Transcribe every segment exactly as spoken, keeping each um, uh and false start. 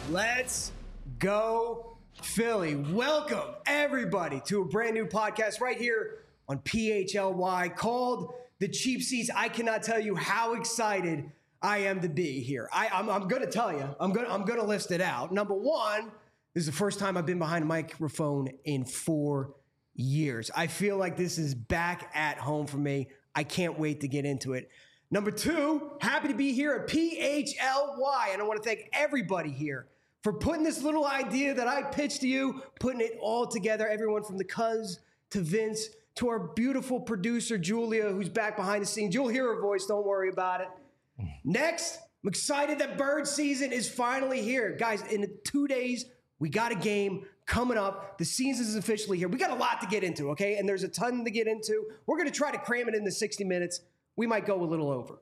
Let's go, Philly. Welcome, everybody, to a brand new podcast right here on P H L Y called The Cheap Seats. I cannot tell you how excited I am to be here. I, I'm, I'm going to tell you. I'm going I'm going to list it out. Number one, this is the first time I've been behind a microphone in four years. I feel like this is back at home for me. I can't wait to get into it. Number two, happy to be here at P H L Y. And I want to thank everybody here for putting this little idea that I pitched to you, putting it all together. Everyone from the Cuz to Vince to our beautiful producer, Julia, who's back behind the scenes. You'll hear her voice. Don't worry about it. Next, I'm excited that bird season is finally here. Guys, in two days, we got a game coming up. The season is officially here. We got a lot to get into, okay? And there's a ton to get into. We're going to try to cram it into sixty minutes. We might go a little over.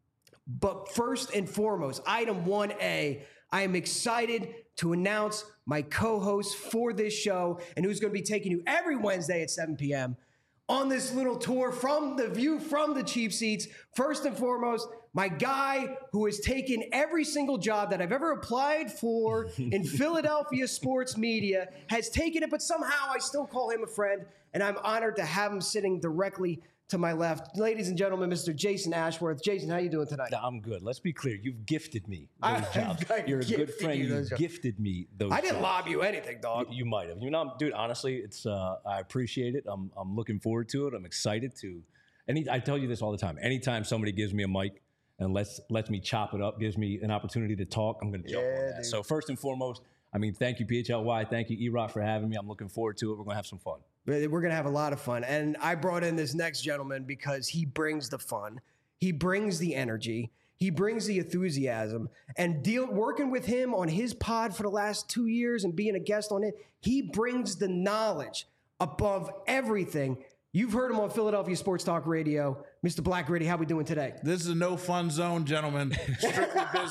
But first and foremost, item one A, I am excited to announce my co-host for this show and who's going to be taking you every Wednesday at seven p.m. on this little tour from the view from the cheap seats. First and foremost, my guy who has taken every single job that I've ever applied for in Philadelphia sports media, has taken it, but somehow I still call him a friend, and I'm honored to have him sitting directly to my left. Ladies and gentlemen, Mister Jason Ashworth. Jason, how you doing tonight? I'm good. Let's be clear. You've gifted me those I, jobs. I You're a good friend. You jobs. gifted me those I didn't jobs. lob you anything, dog. You, you might have. You know, dude, honestly, it's uh, I appreciate it. I'm I'm looking forward to it. I'm excited to. Any, I tell you this all the time. Anytime somebody gives me a mic and lets lets me chop it up, gives me an opportunity to talk, I'm going to jump Yeah, on that. dude. So first and foremost, I mean, thank you, P H L Y. Thank you, E-Rock, for having me. I'm looking forward to it. We're going to have some fun. We're going to have a lot of fun. And I brought in this next gentleman because he brings the fun. He brings the energy. He brings the enthusiasm. And deal working with him on his pod for the last two years and being a guest on it, he brings the knowledge above everything. You've heard him on Philadelphia Sports Talk Radio. Mister Black Gritty, how we doing today? This is a no fun zone, gentlemen. Strictly business.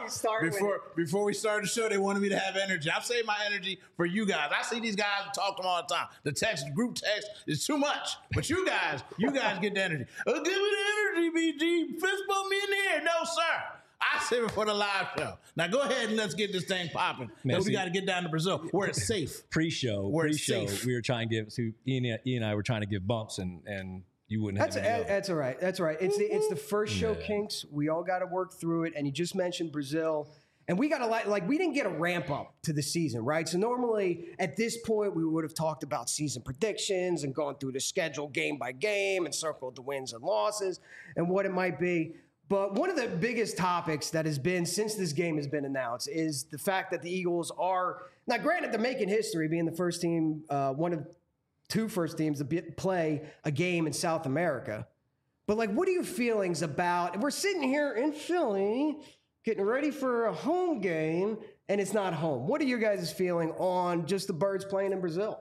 Before before we started the show, they wanted me to have energy. I've saved my energy for you guys. I see these guys and talk to them all the time. The text, group text is too much. But you guys, you guys get the energy. Oh, give me the energy, B G. Fist bump me in the air. No, sir. I save it for the live show. Now go ahead and let's get this thing popping. Because we got to get down to Brazil where it's safe. Pre-show, Where it's pre-show, safe. we were trying to give. So Ian, Ian and I were trying to give bumps, and and you wouldn't have. That's any of it. that's all right. That's all right. It's the it's the first show, Kinks. We all got to work through it. And you just mentioned Brazil, and we got to like like we didn't get a ramp up to the season, right? So normally at this point we would have talked about season predictions and gone through the schedule game by game and circled the wins and losses and what it might be. But one of the biggest topics that has been since this game has been announced is the fact that the Eagles are, now granted, they're making history, being the first team, uh, one of two first teams to be, play a game in South America. But like, what are your feelings about, we're sitting here in Philly getting ready for a home game and it's not home. What are your guys' feeling on just the Birds playing in Brazil?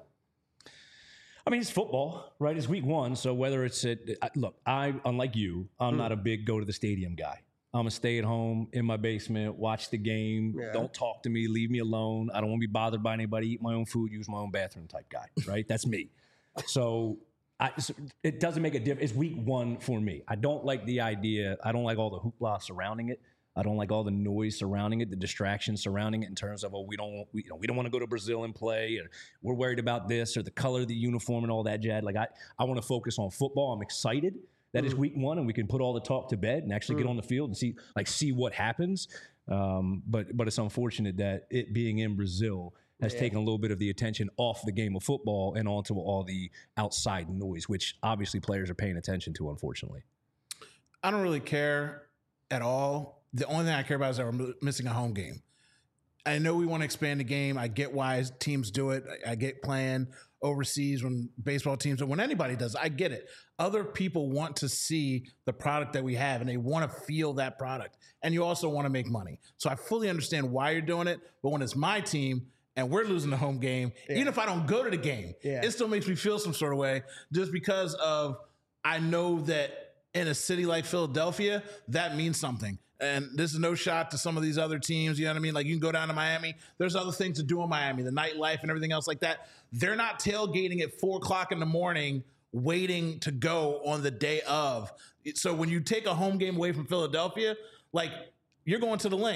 I mean, it's football, right? It's week one. So whether it's at, look, I, unlike you, I'm mm. not a big go to the stadium guy. I'm a stay at home in my basement, watch the game. Yeah. Don't talk to me. Leave me alone. I don't want to be bothered by anybody. Eat my own food, use my own bathroom type guy, right? That's me. So I, it doesn't make a difference. It's week one for me. I don't like the idea. I don't like all the hoopla surrounding it. I don't like all the noise surrounding it, the distraction surrounding it in terms of, oh, we don't we, you know, we don't want to go to Brazil and play, or we're worried about this, or the color of the uniform and all that jazz. Like, I, I want to focus on football. I'm excited that mm. it's week one and we can put all the talk to bed and actually mm. get on the field and see like see what happens. Um, but but it's unfortunate that it being in Brazil has yeah. taken a little bit of the attention off the game of football and onto all the outside noise, which obviously players are paying attention to, unfortunately. I don't really care at all. The only thing I care about is that we're missing a home game. I know we want to expand the game. I get why teams do it. I get playing overseas when baseball teams, or when anybody does. I get it. Other people want to see the product that we have, and they want to feel that product. And you also want to make money. So I fully understand why you're doing it. But when it's my team and we're losing the home game, yeah. even if I don't go to the game, yeah. it still makes me feel some sort of way, just because of I know that in a city like Philadelphia, that means something. And this is no shot to some of these other teams. You know what I mean? Like, you can go down to Miami. There's other things to do in Miami, the nightlife and everything else like that. They're not tailgating at four o'clock in the morning waiting to go on the day of. So when you take a home game away from Philadelphia, like, you're going to the link.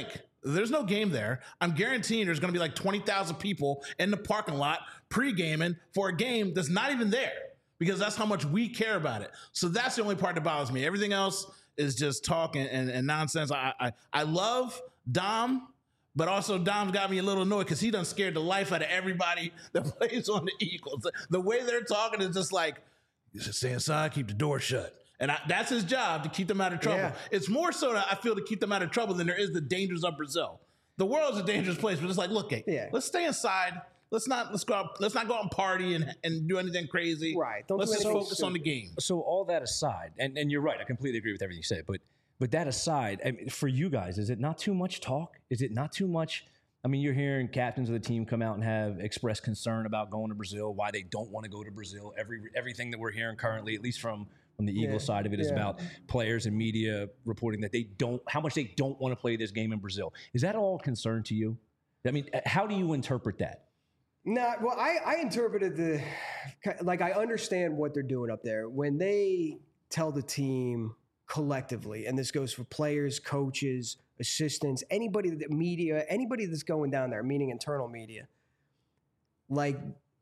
There's no game there. I'm guaranteeing there's going to be like twenty thousand people in the parking lot pre-gaming for a game that's not even there because that's how much we care about it. So that's the only part that bothers me. Everything else is just talk and, and, and nonsense. I, I I love Dom, but also Dom's got me a little annoyed because he done scared the life out of everybody that plays on the Eagles. The, the way they're talking is just like, you should stay inside, keep the door shut. And I, that's his job, to keep them out of trouble. Yeah. It's more so that I feel to keep them out of trouble than there is the dangers of Brazil. The world's a dangerous place, but it's like, look, hey, yeah. let's stay inside. Let's not let's go out, let's not go out and party and, and do anything crazy. Right. Don't let's just focus on the game. So all that aside, and, and you're right, I completely agree with everything you say, but but that aside, I mean, for you guys, is it not too much talk? Is it not too much? I mean, you're hearing captains of the team come out and have expressed concern about going to Brazil, why they don't want to go to Brazil. Every everything that we're hearing currently, at least from, from the Eagles yeah, side of it, is yeah. about players and media reporting that they don't, how much they don't want to play this game in Brazil. Is that all concern to you? I mean, how do you interpret that? No, well, I, I interpreted the, like, I understand what they're doing up there. When they tell the team collectively, and this goes for players, coaches, assistants, anybody that media, anybody that's going down there, meaning internal media, like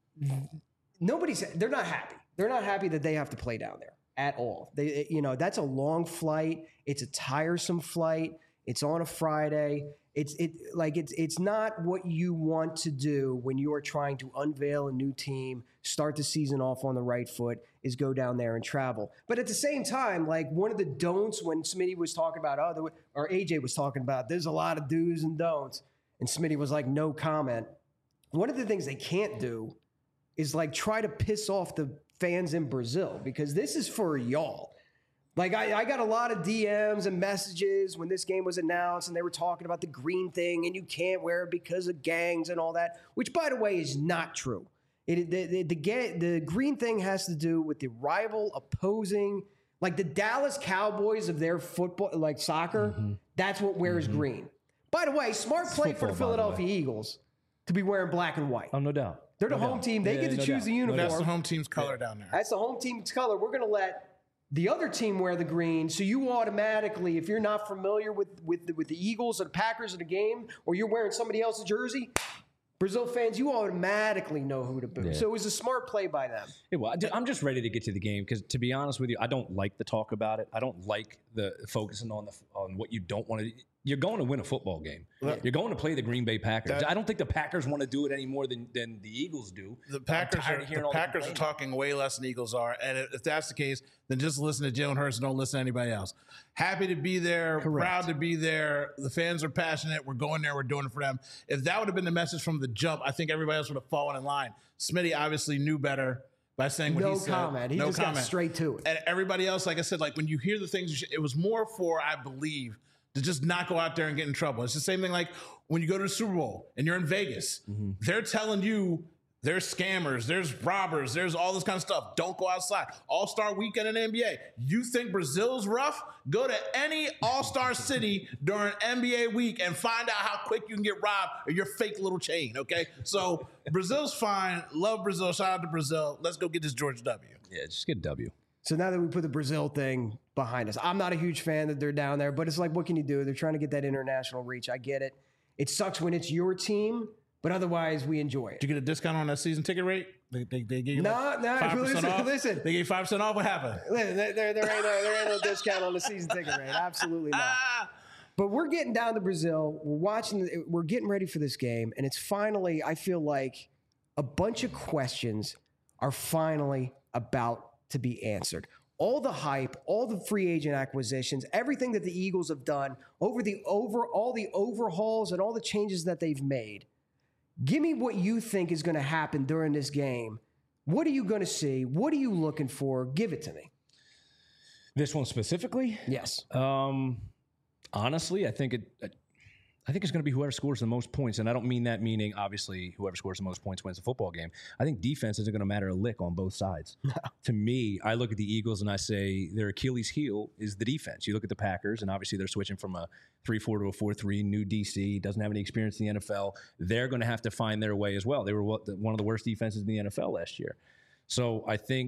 nobody's, they're not happy. They're not happy that they have to play down there at all. They, you know, that's a long flight. It's a tiresome flight. It's on a Friday. It's it like it's it's not what you want to do when you are trying to unveil a new team, start the season off on the right foot, is go down there and travel. But at the same time, like one of the don'ts when Smitty was talking about, oh, or A J was talking about, there's a lot of do's and don'ts, and Smitty was like, no comment. One of the things they can't do is like try to piss off the fans in Brazil, because this is for y'all. Like, I, I got a lot of D Ms and messages when this game was announced, and they were talking about the green thing, and you can't wear it because of gangs and all that, which, by the way, is not true. It, the, the, the, the green thing has to do with the rival opposing, like the Dallas Cowboys of their football, like soccer, mm-hmm. that's what wears mm-hmm. green. By the way, smart play football, for the Philadelphia the Eagles to be wearing black and white. Oh, no doubt. They're the no home doubt. team. They yeah, get to no choose doubt. the uniform. That's the home team's color down there. That's the home team's color. We're going to let the other team wear the green, so you automatically, if you're not familiar with with the, with the Eagles or the Packers in the game, or you're wearing somebody else's jersey, Brazil fans, you automatically know who to boo. Yeah. So it was a smart play by them. Yeah, well, I'm just ready to get to the game because, to be honest with you, I don't like the talk about it. I don't like the focusing on the on what you don't want to. You're going to win a football game. Yeah. You're going to play the Green Bay Packers. That, I don't think the Packers want to do it any more than, than the Eagles do. The Packers are the Packers are talking way less than the Eagles are, and if that's the case, then just listen to Jalen Hurts and don't listen to anybody else. Happy to be there, Correct. Proud to be there. The fans are passionate. We're going there. We're doing it for them. If that would have been the message from the jump, I think everybody else would have fallen in line. Smitty obviously knew better by saying what no he said. Comment. He no just comment. got straight to it. And everybody else, like I said, like when you hear the things, you should, it was more for, I believe, to just not go out there and get in trouble. It's the same thing like when you go to the Super Bowl and you're in Vegas. Mm-hmm. They're telling you there's scammers, there's robbers, there's all this kind of stuff. Don't go outside. All-Star weekend in the N B A. You think Brazil's rough? Go to any All-Star city during N B A week and find out how quick you can get robbed or your fake little chain, okay? So Brazil's fine. Love Brazil. Shout out to Brazil. Let's go get this George W. Yeah, just get a W. So now that we put the Brazil thing behind us, I'm not a huge fan that they're down there, but it's like, what can you do? They're trying to get that international reach. I get it. It sucks when it's your team, but otherwise we enjoy it. Did you get a discount on that season ticket rate? They, they, they gave you no, like no. five percent listen, off? listen. They gave five percent off. What happened? Listen, there, there, there, ain't no, there ain't no discount on the season ticket rate. Absolutely not. But we're getting down to Brazil. We're watching. We're getting ready for this game, and it's finally, I feel like, a bunch of questions are finally about to be answered. All the hype, all the free agent acquisitions, everything that the Eagles have done over the over all the overhauls and all the changes that they've made. Give me what you think is going to happen during this game. What are you going to see? What are you looking for? Give it to me. This one specifically? Yes. Um, honestly, I think it. I think it's going to be whoever scores the most points, and I don't mean that meaning, obviously, whoever scores the most points wins the football game. I think defense isn't going to matter a lick on both sides. To me, I look at the Eagles and I say their Achilles heel is the defense. You look at the Packers, and obviously they're switching from a three four to a four three, new D C, doesn't have any experience in the N F L. They're going to have to find their way as well. They were one of the worst defenses in the N F L last year. So I think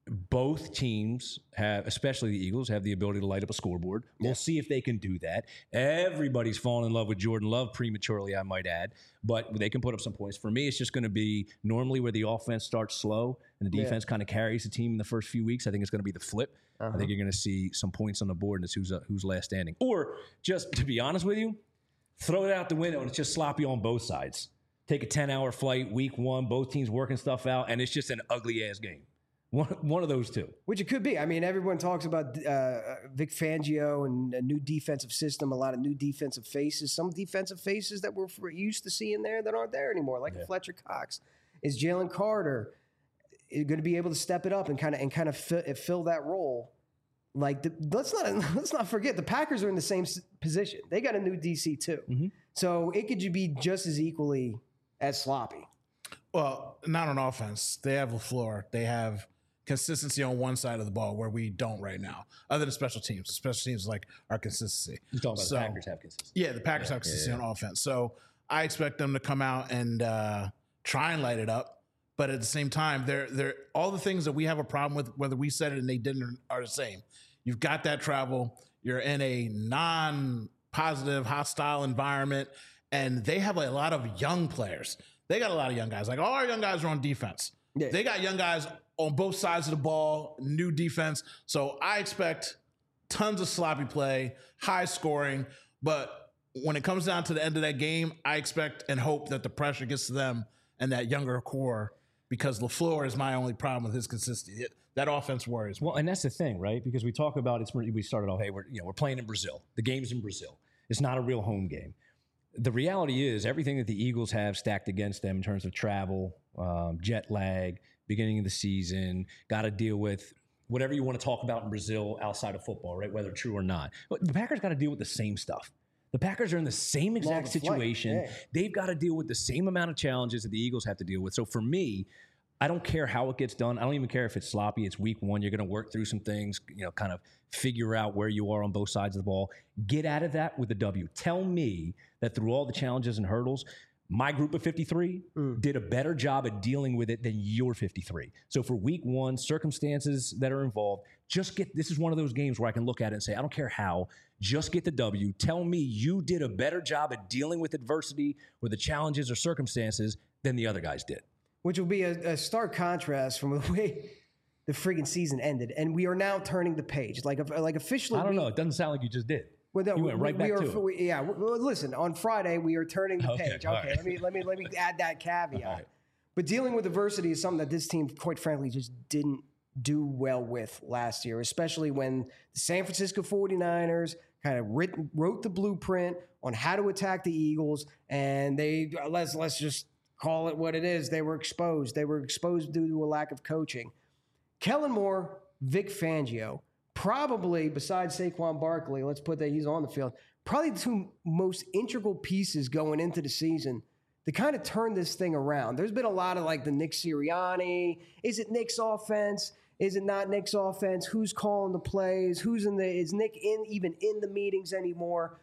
both teams have, especially the Eagles, have the ability to light up a scoreboard. We'll yeah. see if they can do that. Everybody's fallen in love with Jordan Love prematurely, I might add, but they can put up some points. For me, it's just going to be normally where the offense starts slow and the defense yeah. kind of carries the team in the first few weeks. I think it's going to be the flip. Uh-huh. I think you're going to see some points on the board, and it's who's, uh, who's last standing. Or just to be honest with you, throw it out the window and it's just sloppy on both sides. Take a ten-hour flight, week one, both teams working stuff out, and it's just an ugly-ass game. One, one of those two. Which it could be. I mean, everyone talks about uh, Vic Fangio and a new defensive system, a lot of new defensive faces, some defensive faces that we're used to seeing there that aren't there anymore, like yeah. Fletcher Cox. Is Jalen Carter going to be able to step it up and kind of and kind of fill, fill that role? Like, the, let's not let's not forget the Packers are in the same position. They got a new D C too, mm-hmm. so it could be just as equally as sloppy. Well, not on offense. They have LaFleur. They have consistency on one side of the ball where we don't right now, other than special teams. Special teams like our consistency. You're talking about so, the Packers have consistency. Yeah, the Packers yeah, have consistency yeah, yeah. on offense. So I expect them to come out and uh, try and light it up. But at the same time, they're they're all the things that we have a problem with, whether we said it and they didn't, are the same. You've got that travel. You're in a non-positive, hostile environment, and they have a lot of young players. They got a lot of young guys. Like all our young guys are on defense. Yeah. They got young guys on both sides of the ball, new defense. So I expect tons of sloppy play, high scoring. But when it comes down to the end of that game, I expect and hope that the pressure gets to them and that younger core, because LaFleur is my only problem with his consistency. It, that offense worries me. Well, and that's the thing, right? Because we talk about it's. We started off, hey, we're you know we're playing in Brazil. The game's in Brazil. It's not a real home game. The reality is everything that the Eagles have stacked against them in terms of travel, um, jet lag, beginning of the season, got to deal with whatever you want to talk about in Brazil outside of football, right? Whether true or not. But the Packers got to deal with the same stuff. The Packers are in the same exact situation. Yeah. They've got to deal with the same amount of challenges that the Eagles have to deal with. So for me, I don't care how it gets done. I don't even care if it's sloppy. It's week one. You're going to work through some things, you know, kind of figure out where you are on both sides of the ball. Get out of that with a W. Tell me that through all the challenges and hurdles, my group of fifty-three mm. did a better job at dealing with it than your fifty-three. So for week one, circumstances that are involved, just get, this is one of those games where I can look at it and say, I don't care how, just get the W. Tell me you did a better job at dealing with adversity or the challenges or circumstances than the other guys did. Which will be a, a stark contrast from the way the friggin' season ended. And we are now turning the page. Like, like officially. I don't we, know. It doesn't sound like you just did. Well, no, you went right we, back we to are, it. We, yeah. Well, listen, on Friday, we are turning the okay, page. Okay, right. let me let me let me add that caveat. Right. But dealing with adversity is something that this team, quite frankly, just didn't do well with last year, especially when the San Francisco forty-niners kind of writ, wrote the blueprint on how to attack the Eagles, and they let's let's just call it what it is. They were exposed. They were exposed due to a lack of coaching. Kellen Moore, Vic Fangio, probably besides Saquon Barkley, let's put that he's on the field, probably the two most integral pieces going into the season to kind of turn this thing around. There's been a lot of like the Nick Sirianni. Is it Nick's offense? Is it not Nick's offense? Who's calling the plays? Who's in the, is Nick in even in the meetings anymore?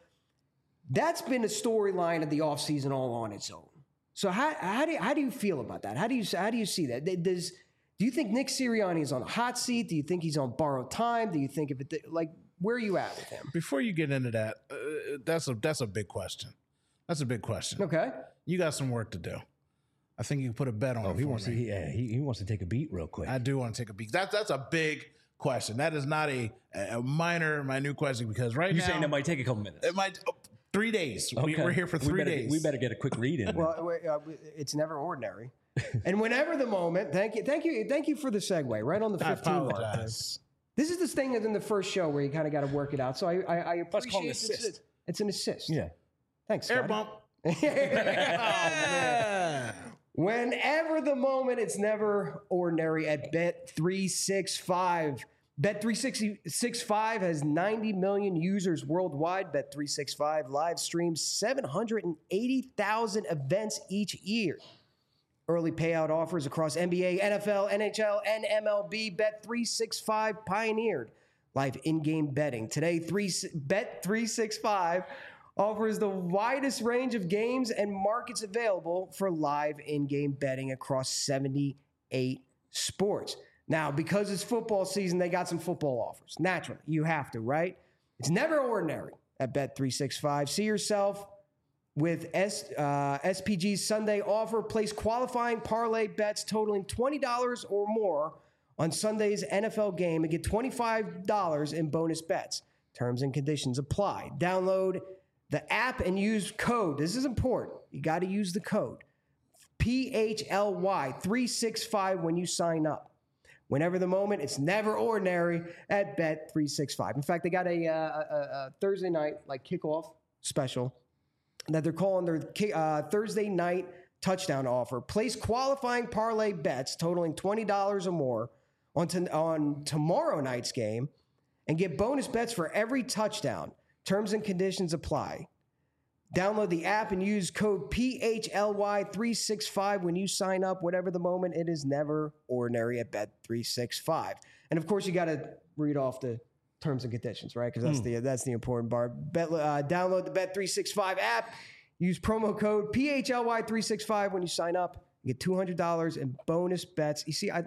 That's been a storyline of the offseason all on its own. So how how do you, how do you feel about that? How do you how do you see that? Does do you think Nick Sirianni is on a hot seat? Do you think he's on borrowed time? Do you think if it like where are you at with him? Before you get into that, uh, that's a that's a big question. That's a big question. Okay, you got some work to do. I think you can put a bet on. Oh, it he for wants me. to. Yeah, he, he wants to take a beat real quick. I do want to take a beat. That's that's a big question. That is not a a minor minute question because right You're now saying that might take a couple minutes. It might. Oh, Three days. Okay. We, we're here for three we better, days. We better get a quick read in. Well, uh, it's never ordinary. And whenever the moment, thank you, thank you, thank you for the segue. Right on the fifteen mark. This is this thing that's in the first show where you kind of got to work it out. So I, I, I appreciate it. It's, it's an assist. Yeah. Thanks. Air Scotty. bump. Oh, man. Whenever the moment, it's never ordinary at Bet three sixty-five. Bet three sixty-five has ninety million users worldwide. Bet three sixty-five live streams seven hundred eighty thousand events each year. Early payout offers across N B A, N F L, N H L, and M L B. Bet three sixty-five pioneered live in-game betting. Today, Bet three sixty-five offers the widest range of games and markets available for live in-game betting across seventy-eight sports. Now, because it's football season, they got some football offers. Naturally, you have to, right? It's never ordinary at Bet three sixty-five. See yourself with S, uh, S P G's Sunday offer. Place qualifying parlay bets totaling twenty dollars or more on Sunday's N F L game and get twenty-five dollars in bonus bets. Terms and conditions apply. Download the app and use code. This is important. You got to use the code P H L Y three sixty-five when you sign up. Whenever the moment, it's never ordinary at Bet three sixty-five. In fact, they got a, uh, a, a Thursday night like kickoff special that they're calling their uh, Thursday night touchdown offer. Place qualifying parlay bets totaling twenty dollars or more on, to, on tomorrow night's game and get bonus bets for every touchdown. Terms and conditions apply. Download the app and use code P H L Y three sixty-five when you sign up. Whatever the moment, it is never ordinary at Bet three sixty-five. And of course, you got to read off the terms and conditions, right? Because that's mm. the that's the important part. Bet, uh, download the Bet three sixty-five app. Use promo code P H L Y three sixty-five when you sign up. You get two hundred dollars in bonus bets. You see, I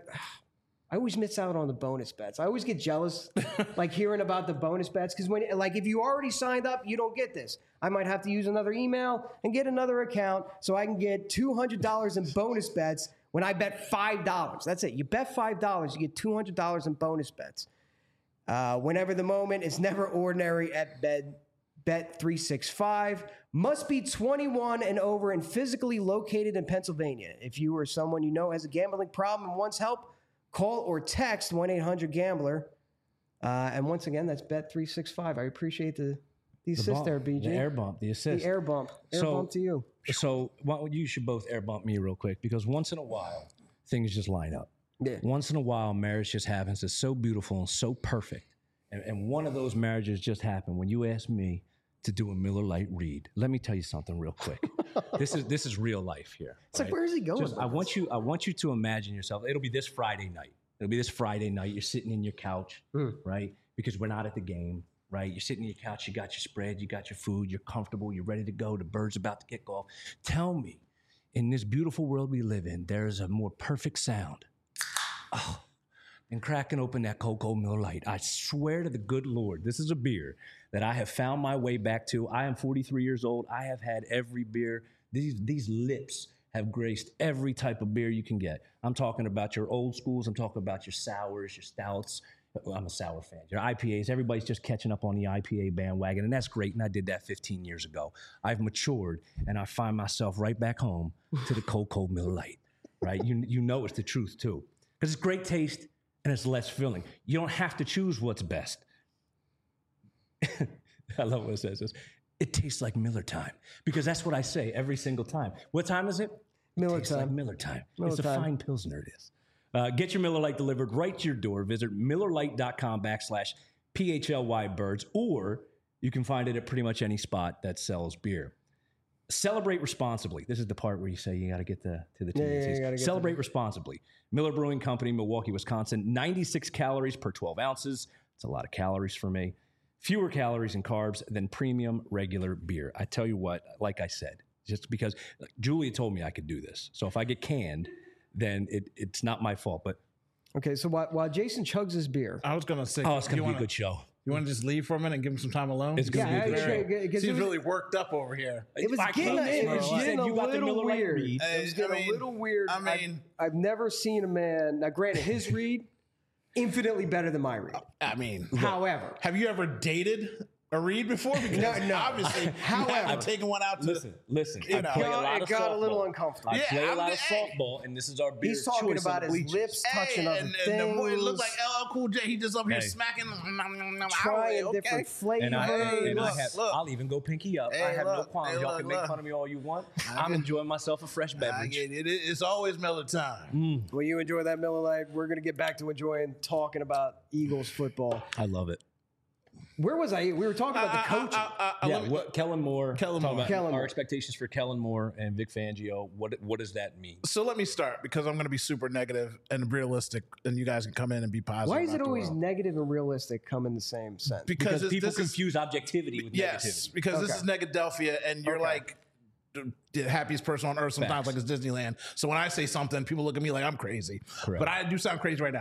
I always miss out on the bonus bets. I always get jealous, like hearing about the bonus bets, because when, like, if you already signed up, you don't get this. I might have to use another email and get another account so I can get two hundred dollars in bonus bets when I bet five dollars. That's it. You bet five dollars, you get two hundred dollars in bonus bets. Uh, whenever the moment, it's never ordinary at Bet, Bet three sixty-five. Must be twenty-one and over and physically located in Pennsylvania. If you or someone you know has a gambling problem and wants help, call or text one eight hundred gambler. Uh, and once again, that's Bet three sixty-five. I appreciate the, the assist bump, there, B J. The air bump, the assist. The air bump. Air so, bump to you. So well, you should both air bump me real quick, because once in a while, things just line up. Yeah. Once in a while, marriage just happens. It's so beautiful and so perfect. And, and one of those marriages just happened when you asked me to do a Miller Lite read. Let me tell you something real quick. this is this is real life here. It's right? Like, where is he going? Just, I want you I want you to imagine yourself. It'll be this Friday night. It'll be this Friday night. You're sitting in your couch, mm. right? Because we're not at the game, right? You're sitting in your couch. You got your spread. You got your food. You're comfortable. You're ready to go. The bird's about to kick off. Tell me, in this beautiful world we live in, there's a more perfect sound oh, than cracking open that Cocoa Miller Lite. I swear to the good Lord, this is a beer that I have found my way back to. I am forty-three years old. I have had every beer. These, these lips have graced every type of beer you can get. I'm talking about your old schools. I'm talking about your sours, your stouts. Well, I'm a sour fan. Your I P As. Everybody's just catching up on the I P A bandwagon, and that's great. And I did that fifteen years ago. I've matured, and I find myself right back home to the Cocoa Miller Lite. Right? You you know it's the truth too, because it's great taste and it's less filling. You don't have to choose what's best. I love when it says this. It tastes like Miller time, because that's what I say every single time. What time is it? Miller Tastes time. Like Miller time. Miller it's a time. fine Pilsner, it is. Uh, get your Miller Lite delivered right to your door. Visit MillerLite.com backslash PHLY birds, or you can find it at pretty much any spot that sells beer. Celebrate responsibly. This is the part where you say you got to get the to the T yeah, yeah, yeah, Celebrate to responsibly. Miller Brewing Company, Milwaukee, Wisconsin. ninety-six calories per twelve ounces. It's a lot of calories for me. Fewer calories and carbs than premium regular beer. I tell you what, like I said, just because like, Julia told me I could do this. So if I get canned, then it, it's not my fault. But okay, so while, while Jason chugs his beer, I was gonna say, oh, it's gonna be wanna, a good show. You want to just leave for a minute and give him some time alone? It's gonna yeah, be a good I, show. I, I, Seems was, really worked up over here. It was I getting, came it in, was you getting said a you got the little Miller Lite weird. read. It was I getting mean- a little weird. I mean- I've, I've never seen a man. Now, granted, his read infinitely better than my read. I mean, However, have you ever dated a read before? Because No, no. obviously, However- you haven't taken one out to Listen, listen. You I know. play a God, lot it of got a little softball. uncomfortable. I Yeah, play a I'm lot the- of hey. softball, and this is our beer He's talking choice about on the his bleachers. lips touching other and, things. and the boy, it looked like L L Cool J. He just up here Hey. smacking. trying okay. different flavors. And I, Hey, and I look, have, look. I'll even go pinky up. Hey, I have no look, qualms. hey, Y'all look, can make look. fun of me all you want. I I'm get- enjoying myself a fresh I beverage. get it. It- It's always Miller time. When you enjoy that Miller Lite, we're going to get back to enjoying talking about Eagles football. I love it. Where was I? We were talking about the coaching. Uh, uh, uh, Yeah, let me- what, Kellen Moore. Kellen talk Moore. about Kellen our Moore. expectations for Kellen Moore and Vic Fangio. What what does that mean? So let me start because I'm going to be super negative and realistic, and you guys can come in and be positive. Why is it always afterward. negative and realistic come in the same sense? Because, Because it's- people this is- confuse objectivity with yes, negativity. because this Okay. is Negadelphia, and you're Okay. like the- the happiest person on earth sometimes, Facts. like it's Disneyland. So when I say something, people look at me like I'm crazy. Correct. But I do sound crazy right now.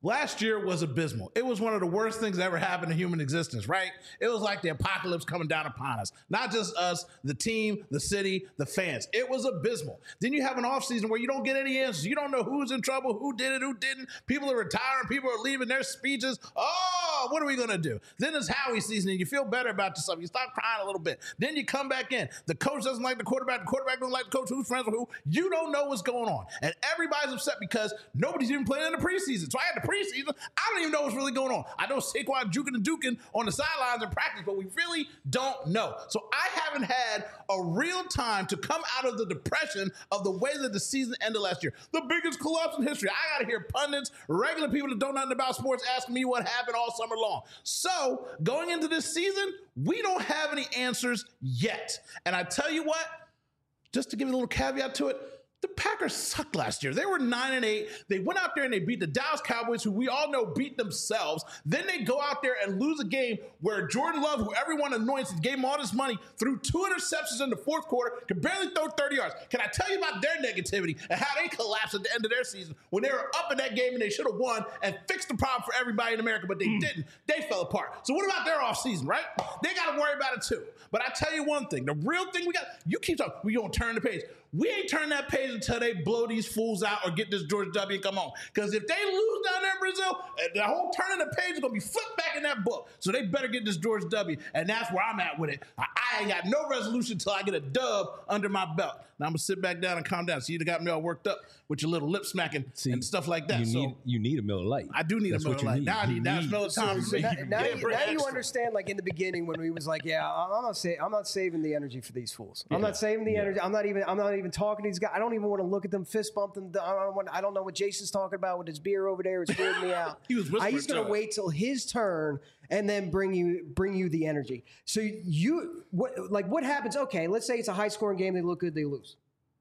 Last year was abysmal. It was one of the worst things that ever happened in human existence, right? It was like the apocalypse coming down upon us. Not just us, the team, the city, the fans. It was abysmal. Then you have an offseason where you don't get any answers. You don't know who's in trouble, who did it, who didn't. People are retiring. People are leaving their speeches. Oh, what are we going to do? Then it's Howie season, and you feel better about yourself. You stop crying a little bit. Then you come back in. The coach doesn't like the quarterback. The quarterback doesn't like the coach. Who's friends with who? You don't know what's going on. And everybody's upset because nobody's even playing in the preseason. So I had the preseason. I don't even know what's really going on. I know Saquon juking and duking on the sidelines in practice, but we really don't know. So I haven't had a real time to come out of the depression of the way that the season ended last year. The biggest collapse in history. I got to hear pundits, regular people that don't know nothing about sports asking me what happened all summer long. So going into this season, we don't have any answers yet. And I tell you what, just to give you a little caveat to it, the Packers sucked last year. They were nine and eight. They went out there and they beat the Dallas Cowboys, who we all know beat themselves. Then they go out there and lose a game where Jordan Love, who everyone anoints and gave him all this money, threw two interceptions in the fourth quarter, could barely throw thirty yards. Can I tell you about their negativity and how they collapsed at the end of their season when they were up in that game and they should have won and fixed the problem for everybody in America, but they mm. didn't. They fell apart. So what about their offseason, right? They got to worry about it too. But I tell you one thing, the real thing we got, you keep talking, we going to turn the page. We ain't turn that page until they blow these fools out or get this George W. and come on. Because if they lose down there in Brazil, the whole turning the page is going to be flipped back in that book. So they better get this George W. And that's where I'm at with it. I, I ain't got no resolution until I get a dub under my belt. Now I'm going to sit back down and calm down. So you got me all worked up with your little lip smacking See, and stuff like that. You, so need, you need a Miller Lite. I do need that's a Miller Lite. Need. Now I need, now it's Miller time for me. Now, now, you, now you understand, like in the beginning when we was like, yeah, I'm not, sa- I'm not saving the energy for these fools. I'm yeah. not saving the yeah. energy. I'm not even I'm not even talking to these guys. I don't even want to look at them, fist bump them. I don't, want, I don't know what Jason's talking about with his beer over there. It's weirding me out. He was whispering. He's going to wait till his turn and then bring you bring you the energy. So you what like what happens? Okay, let's say it's a high scoring game. They look good. They lose.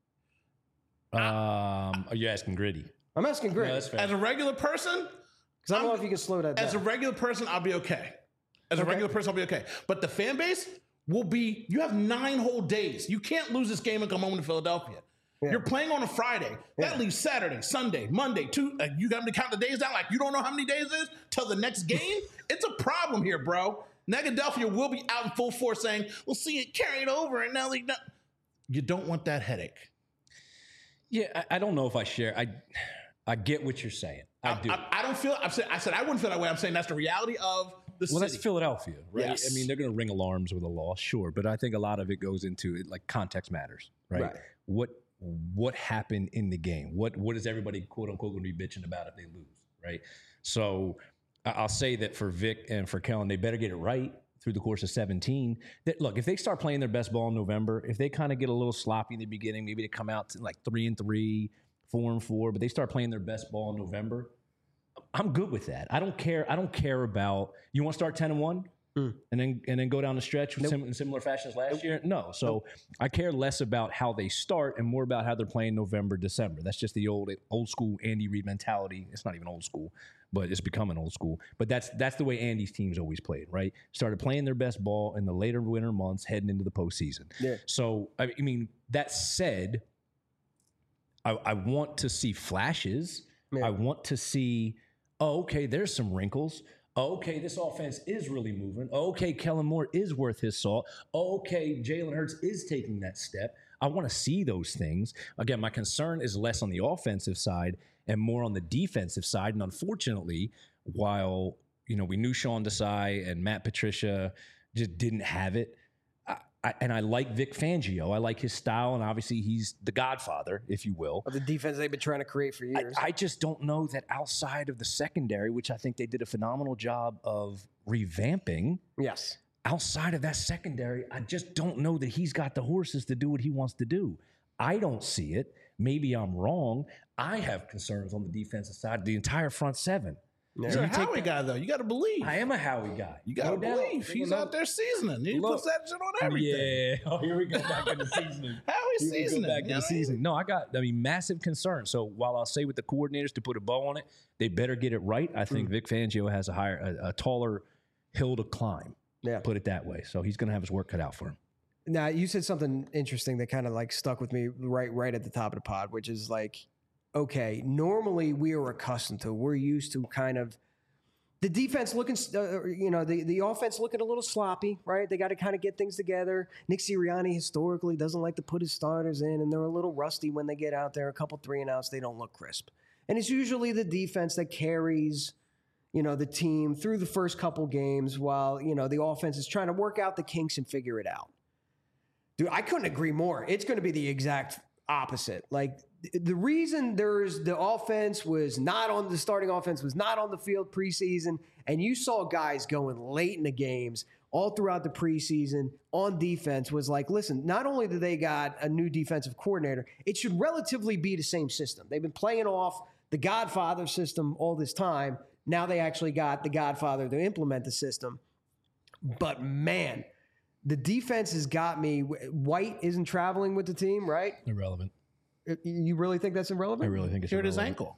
Um, are you asking Gritty? I'm asking Gritty. No, as a regular person, because I don't I'm, know if you can slow that down. As a regular person, I'll be okay. As okay. a regular person, I'll be okay. But the fan base will be. You have nine whole days. You can't lose this game and come home to Philadelphia. Yeah. You're playing on a Friday. That yeah. leaves Saturday, Sunday, Monday, two. Uh, you got to count the days down like you don't know how many days it is till the next game. It's a problem here, bro. Negadelphia will be out in full force saying, we'll see it carried over. And now they not. You don't want that headache. Yeah, I, I don't know if I share. I I get what you're saying. I, I do. I, I don't feel. I've said. I said I wouldn't feel that way. I'm saying that's the reality of the city. Well, that's Philadelphia, right? Yes. I mean, they're going to ring alarms with a loss, sure, but I think a lot of it goes into it, like context matters, right? right? What what happened in the game? What what is everybody quote unquote going to be bitching about if they lose, right? So I'll say that for Vic and for Kellen, they better get it right through the course of seventeen. That look, if they start playing their best ball in November, if they kind of get a little sloppy in the beginning, maybe they come out to like three and three, four and four, but they start playing their best ball in November, I'm good with that. I don't care. I don't care about, you want to start ten and one mm. and then and then go down the stretch nope. sim, in similar fashion as last nope. year? No. So nope. I care less about how they start and more about how they're playing November, December. That's just the old old school Andy Reid mentality. It's not even old school, but it's becoming old school. But that's that's the way Andy's teams always played, right? Started playing their best ball in the later winter months, heading into the postseason. Yeah. So I mean, that said, I, I want to see flashes. Yeah. I want to see, oh, okay, there's some wrinkles. Oh, okay, this offense is really moving. Oh, okay, Kellen Moore is worth his salt. Oh, okay, Jalen Hurts is taking that step. I want to see those things. Again, my concern is less on the offensive side and more on the defensive side. And unfortunately, while you know we knew Sean Desai and Matt Patricia just didn't have it, I, I, and I like Vic Fangio. I like his style, and obviously he's the godfather, if you will, of the defense they've been trying to create for years. I, I just don't know that outside of the secondary, which I think they did a phenomenal job of revamping. Yes. Outside of that secondary, I just don't know that he's got the horses to do what he wants to do. I don't see it. Maybe I'm wrong. I have concerns on the defensive side, the entire front seven. Yeah. You're a Howie guy, though. You got to believe. I am a Howie guy. You got to no believe. Doubt. He's out there seasoning. He Look, puts that shit on everything. Yeah. Oh, here we go back into seasoning. Howie's seasoning. Back into seasoning. No, I got, I mean, massive concern. So while I'll say with the coordinators to put a bow on it, they better get it right. I think mm. Vic Fangio has a higher, a, a taller hill to climb. Yeah. Put it that way. So he's going to have his work cut out for him. Now, you said something interesting that kind of like stuck with me right right at the top of the pod, which is like, okay, normally we are accustomed to, we're used to kind of the defense looking, uh, you know, the, the offense looking a little sloppy, right? They got to kind of get things together. Nick Sirianni historically doesn't like to put his starters in, and they're a little rusty when they get out there. A couple three and outs, they don't look crisp. And it's usually the defense that carries, you know, the team through the first couple games while, you know, the offense is trying to work out the kinks and figure it out. Dude, I couldn't agree more. It's going to be the exact opposite. Like, the reason there's the offense was not on the starting offense was not on the field preseason, and you saw guys going late in the games all throughout the preseason on defense was like, listen, not only do they got a new defensive coordinator, it should relatively be the same system. They've been playing off the Godfather system all this time. Now they actually got the Godfather to implement the system. But man, the defense has got me. White isn't traveling with the team, right? Irrelevant. You really think that's irrelevant? I really think it's Hurt his irrelevant.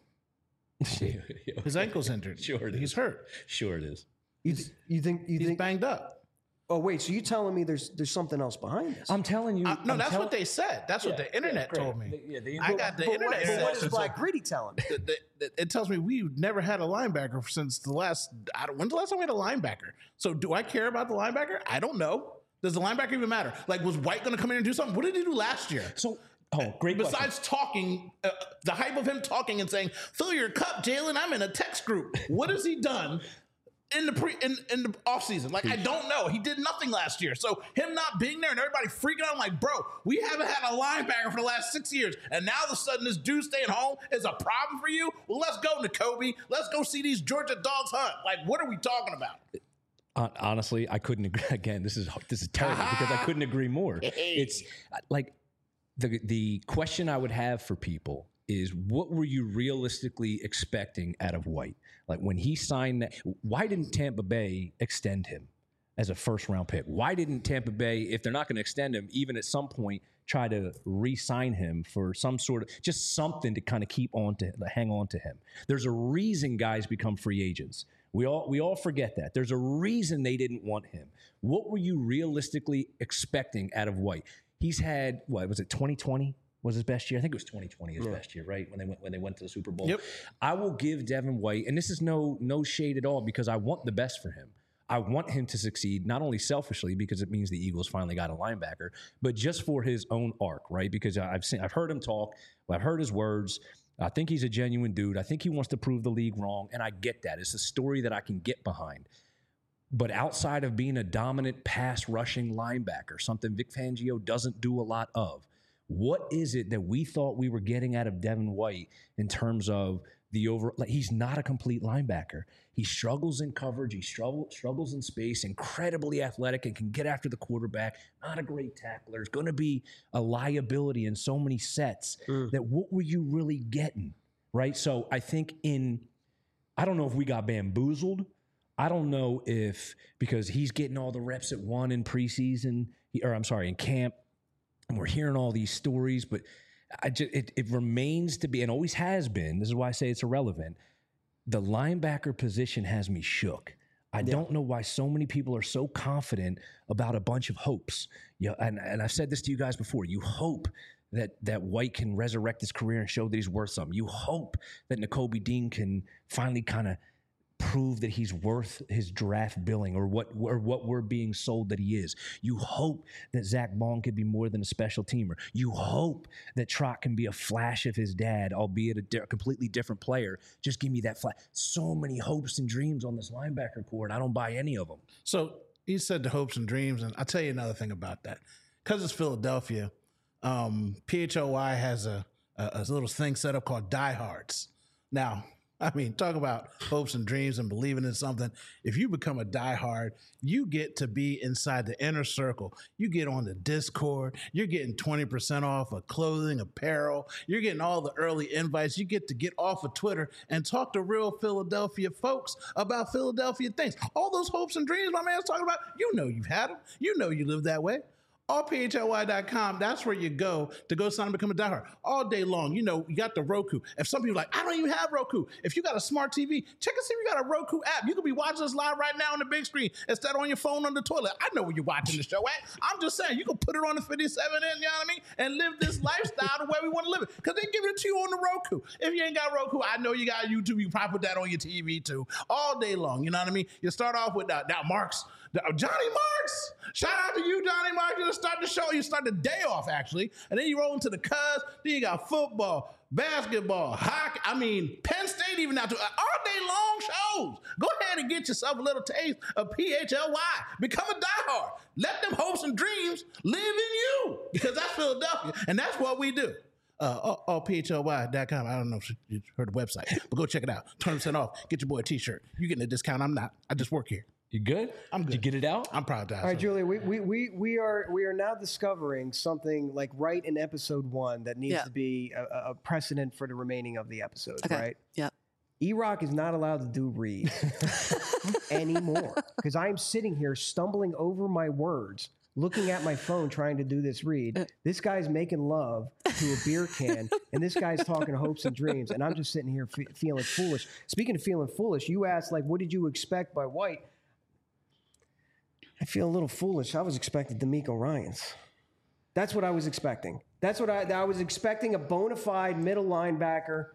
ankle. His ankle's injured. Sure it is. He's hurt. Sure it is. You, th- you think you He's think banged up. Oh wait, so you telling me there's there's something else behind this? I'm telling you. Uh, no, I'm that's tell- what they said. That's what Yeah, the internet yeah, told me. The- yeah, the- I got the but internet. what, but what said- is Black Gritty telling me? the- the- the- it tells me we've never had a linebacker since the last. I don't, when's the last time we had a linebacker? So do I care about the linebacker? I don't know. Does the linebacker even matter? Like, was White going to come in and do something? What did he do last year? So, oh, great question. Besides talking, uh, the hype of him talking and saying, "Fill your cup, Jalen. I'm in a text group." What has he done in the pre in, in the offseason? Like, I don't know. He did nothing last year. So him not being there and everybody freaking out, I'm like, bro, we haven't had a linebacker for the last six years, and now all of a sudden this dude staying home is a problem for you. Well, let's go, Nakobe. Let's go see these Georgia dogs hunt. Like, what are we talking about? Hon- Honestly, I couldn't agree. Again, this is this is terrible because I couldn't agree more. It's like the the question I would have for people is, what were you realistically expecting out of White? Like, when he signed that, why didn't Tampa Bay extend him as a first round pick? Why didn't Tampa Bay, if they're not going to extend him, even at some point try to re-sign him for some sort of just something to kind of keep on to hang on to him? There's a reason guys become free agents. We all we all forget that. There's a reason they didn't want him. What were you realistically expecting out of White? He's had, what was it, twenty twenty was his best year? I think it was twenty twenty his yeah. best year, right? When they went when they went to the Super Bowl. Yep. I will give Devin White, and this is no no shade at all, because I want the best for him. I want him to succeed, not only selfishly because it means the Eagles finally got a linebacker, but just for his own arc, right? Because I've seen I've heard him talk, I've heard his words. I think he's a genuine dude. I think he wants to prove the league wrong, and I get that. It's a story that I can get behind. But outside of being a dominant pass rushing linebacker, something Vic Fangio doesn't do a lot of, what is it that we thought we were getting out of Devin White in terms of the over? Like, he's not a complete linebacker. He struggles in coverage. He struggle, struggles in space, incredibly athletic and can get after the quarterback. Not a great tackler. It's going to be a liability in so many sets mm. that what were you really getting, right? So I think in, I don't know if we got bamboozled. I don't know if, because he's getting all the reps at one in preseason, or I'm sorry, in camp, and we're hearing all these stories, but I just, it, it remains to be, and always has been, this is why I say it's irrelevant, the linebacker position has me shook. I yeah. don't know why so many people are so confident about a bunch of hopes. Yeah, and, and I've said this to you guys before. You hope that that White can resurrect his career and show that he's worth something. You hope that Nakobe Dean can finally kind of prove that he's worth his draft billing, or what or what we're being sold that he is. You hope that Zach Bond could be more than a special teamer. You hope that Trot can be a flash of his dad, albeit a di- completely different player. Just give me that flash. So many hopes and dreams on this linebacker core, and I don't buy any of them. So he said the hopes and dreams, and I'll tell you another thing about that. Because it's Philadelphia, um, P H L Y has a, a, a little thing set up called Diehards. Now, I mean, talk about hopes and dreams and believing in something. If you become a diehard, you get to be inside the inner circle. You get on the Discord. You're getting twenty percent off of clothing, apparel. You're getting all the early invites. You get to get off of Twitter and talk to real Philadelphia folks about Philadelphia things. All those hopes and dreams my man's talking about, you know you've had them. You know you live that way. all P H L Y dot com, that's where you go to go sign up and become a diehard. All day long, you know, you got the Roku. If some people are like, I don't even have Roku. If you got a smart T V, check and see if you got a Roku app. You could be watching us live right now on the big screen instead of on your phone on the toilet. I know where you're watching the show at. I'm just saying, you can put it on the fifty-seven inch, you know what I mean, and live this lifestyle the way we want to live it. Because they give it to you on the Roku. If you ain't got Roku, I know you got YouTube. You probably put that on your T V too. All day long, you know what I mean? You start off with uh, now Marks. Johnny Marks. Shout out to you, Johnny Marks. You start the show. You start the day off, actually. And then you roll into the Cubs. Then you got football, basketball, hockey. I mean, Penn State even out to all day long shows. Go ahead and get yourself a little taste of P H L Y. Become a diehard. Let them hopes and dreams live in you. Because that's Philadelphia. And that's what we do. Uh, all, all P H L Y dot com. I don't know if you heard the website, but go check it out. twenty percent off. Get your boy a t-shirt. You're getting a discount. I'm not. I just work here. You good? I'm good. Did you get it out? I'm proud to. All right, Julia, we, we, we, we are we are now discovering something like right in episode one that needs Yeah. to be a, a precedent for the remaining of the episodes, Okay. right? Yeah. E-Rock is not allowed to do reads anymore because I'm sitting here stumbling over my words, looking at my phone trying to do this read. This guy's making love to a beer can, and this guy's talking hopes and dreams, and I'm just sitting here fe- feeling foolish. Speaking of feeling foolish, you asked, like, what did you expect by White? I feel a little foolish. I was expecting D'Amico Ryans. That's what I was expecting. That's what I, I was expecting, a bona fide middle linebacker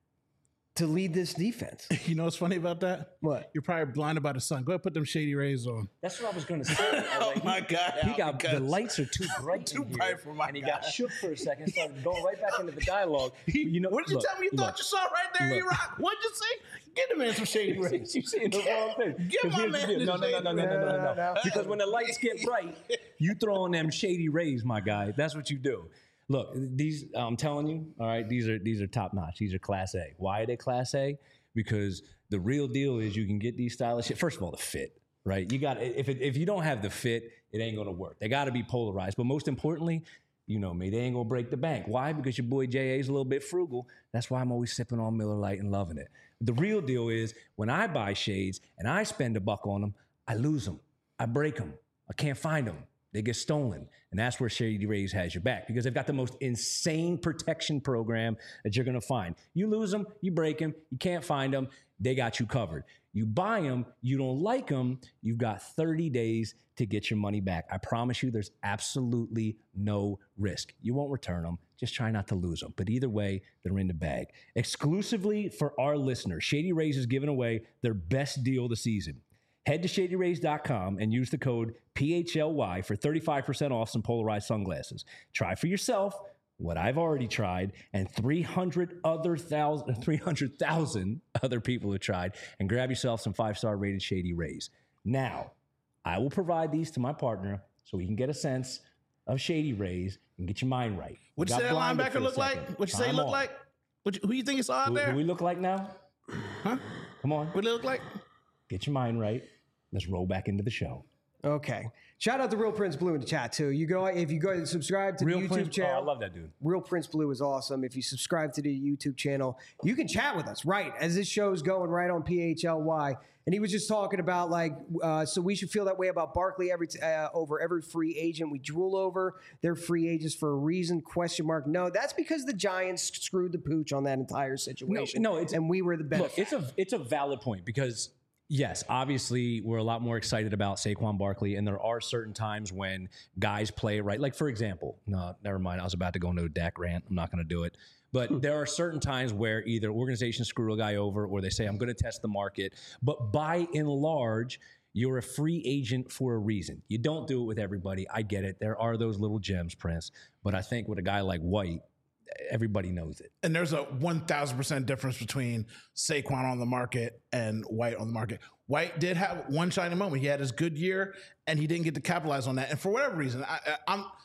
to lead this defense. You know what's funny about that? What? You're probably blinded by the sun. Go ahead, put them shady rays on. That's what I was going to say. I was Oh like, my he, God, He Al, got the because- lights are too bright. Too in here, bright for my and he guy. got shook for a second. Started going right back into the dialogue. You know, What did you look, tell me you look, thought you saw right there, look. E-Rock? What'd you say? Get the man some shady rays. You saying the wrong thing. Give 'Cause my here's the man deal. the No, no, no, shady no, no, no, no, no, No, no, no. Because when the lights get bright, you throw on them shady rays, my guy. That's what you do. Look, these I'm telling you, all right, these are these are top notch. These are class A. Why are they class A? Because the real deal is you can get these stylish shit. First of all, the fit, right? You got if it, if you don't have the fit, it ain't gonna work. They got to be polarized. But most importantly, you know me, they ain't gonna break the bank. Why? Because your boy J A's a little bit frugal. That's why I'm always sipping on Miller Lite and loving it. The real deal is when I buy shades and I spend a buck on them, I lose them. I break them. I can't find them. They get stolen. And that's where Shady Rays has your back because they've got the most insane protection program that you're going to find. You lose them, you break them, you can't find them, they got you covered. You buy them, you don't like them, you've got thirty days to get your money back. I promise you there's absolutely no risk. You won't return them. Just try not to lose them. But either way, they're in the bag. Exclusively for our listeners, Shady Rays is giving away their best deal of the season. Head to shady rays dot com and use the code P H L Y for thirty-five percent off some polarized sunglasses. Try for yourself what I've already tried and three hundred other thousand, three hundred thousand other people have tried, and grab yourself some five-star rated Shady Rays. Now, I will provide these to my partner so we can get a sense of Shady Rays and get your mind right. What'd you Got say that blinded linebacker for a look second. like? What'd you say he Time look on. like? What you, who you think you saw out Who, there? who we look like now? Huh? Come on. What do they look like? Get your mind right. Let's roll back into the show. Okay. Shout out to Real Prince Blue in the chat too. You go if you go and subscribe to the YouTube Prince- channel. Oh, I love that dude. Real Prince Blue is awesome. If you subscribe to the YouTube channel, you can chat with us right as this show's going right on P H L Y. And he was just talking about like, uh, so we should feel that way about Barkley every t- uh, over every free agent we drool over. They're free agents for a reason? Question mark. No, that's because the Giants screwed the pooch on that entire situation. no, it's- and we were the Look, benefit. it's a it's a valid point because yes, obviously we're a lot more excited about Saquon Barkley, and there are certain times when guys play right. Like for example, no, never mind. I was about to go into a Dak rant. I'm not going to do it. But there are certain times where either organizations screw a guy over or they say, I'm going to test the market. But by and large, you're a free agent for a reason. You don't do it with everybody. I get it. There are those little gems, Prince. But I think with a guy like White, everybody knows it. And there's a one thousand percent difference between Saquon on the market and White on the market. White did have one shining moment. He had his good year, and he didn't get to capitalize on that. And for whatever reason, I, I, I'm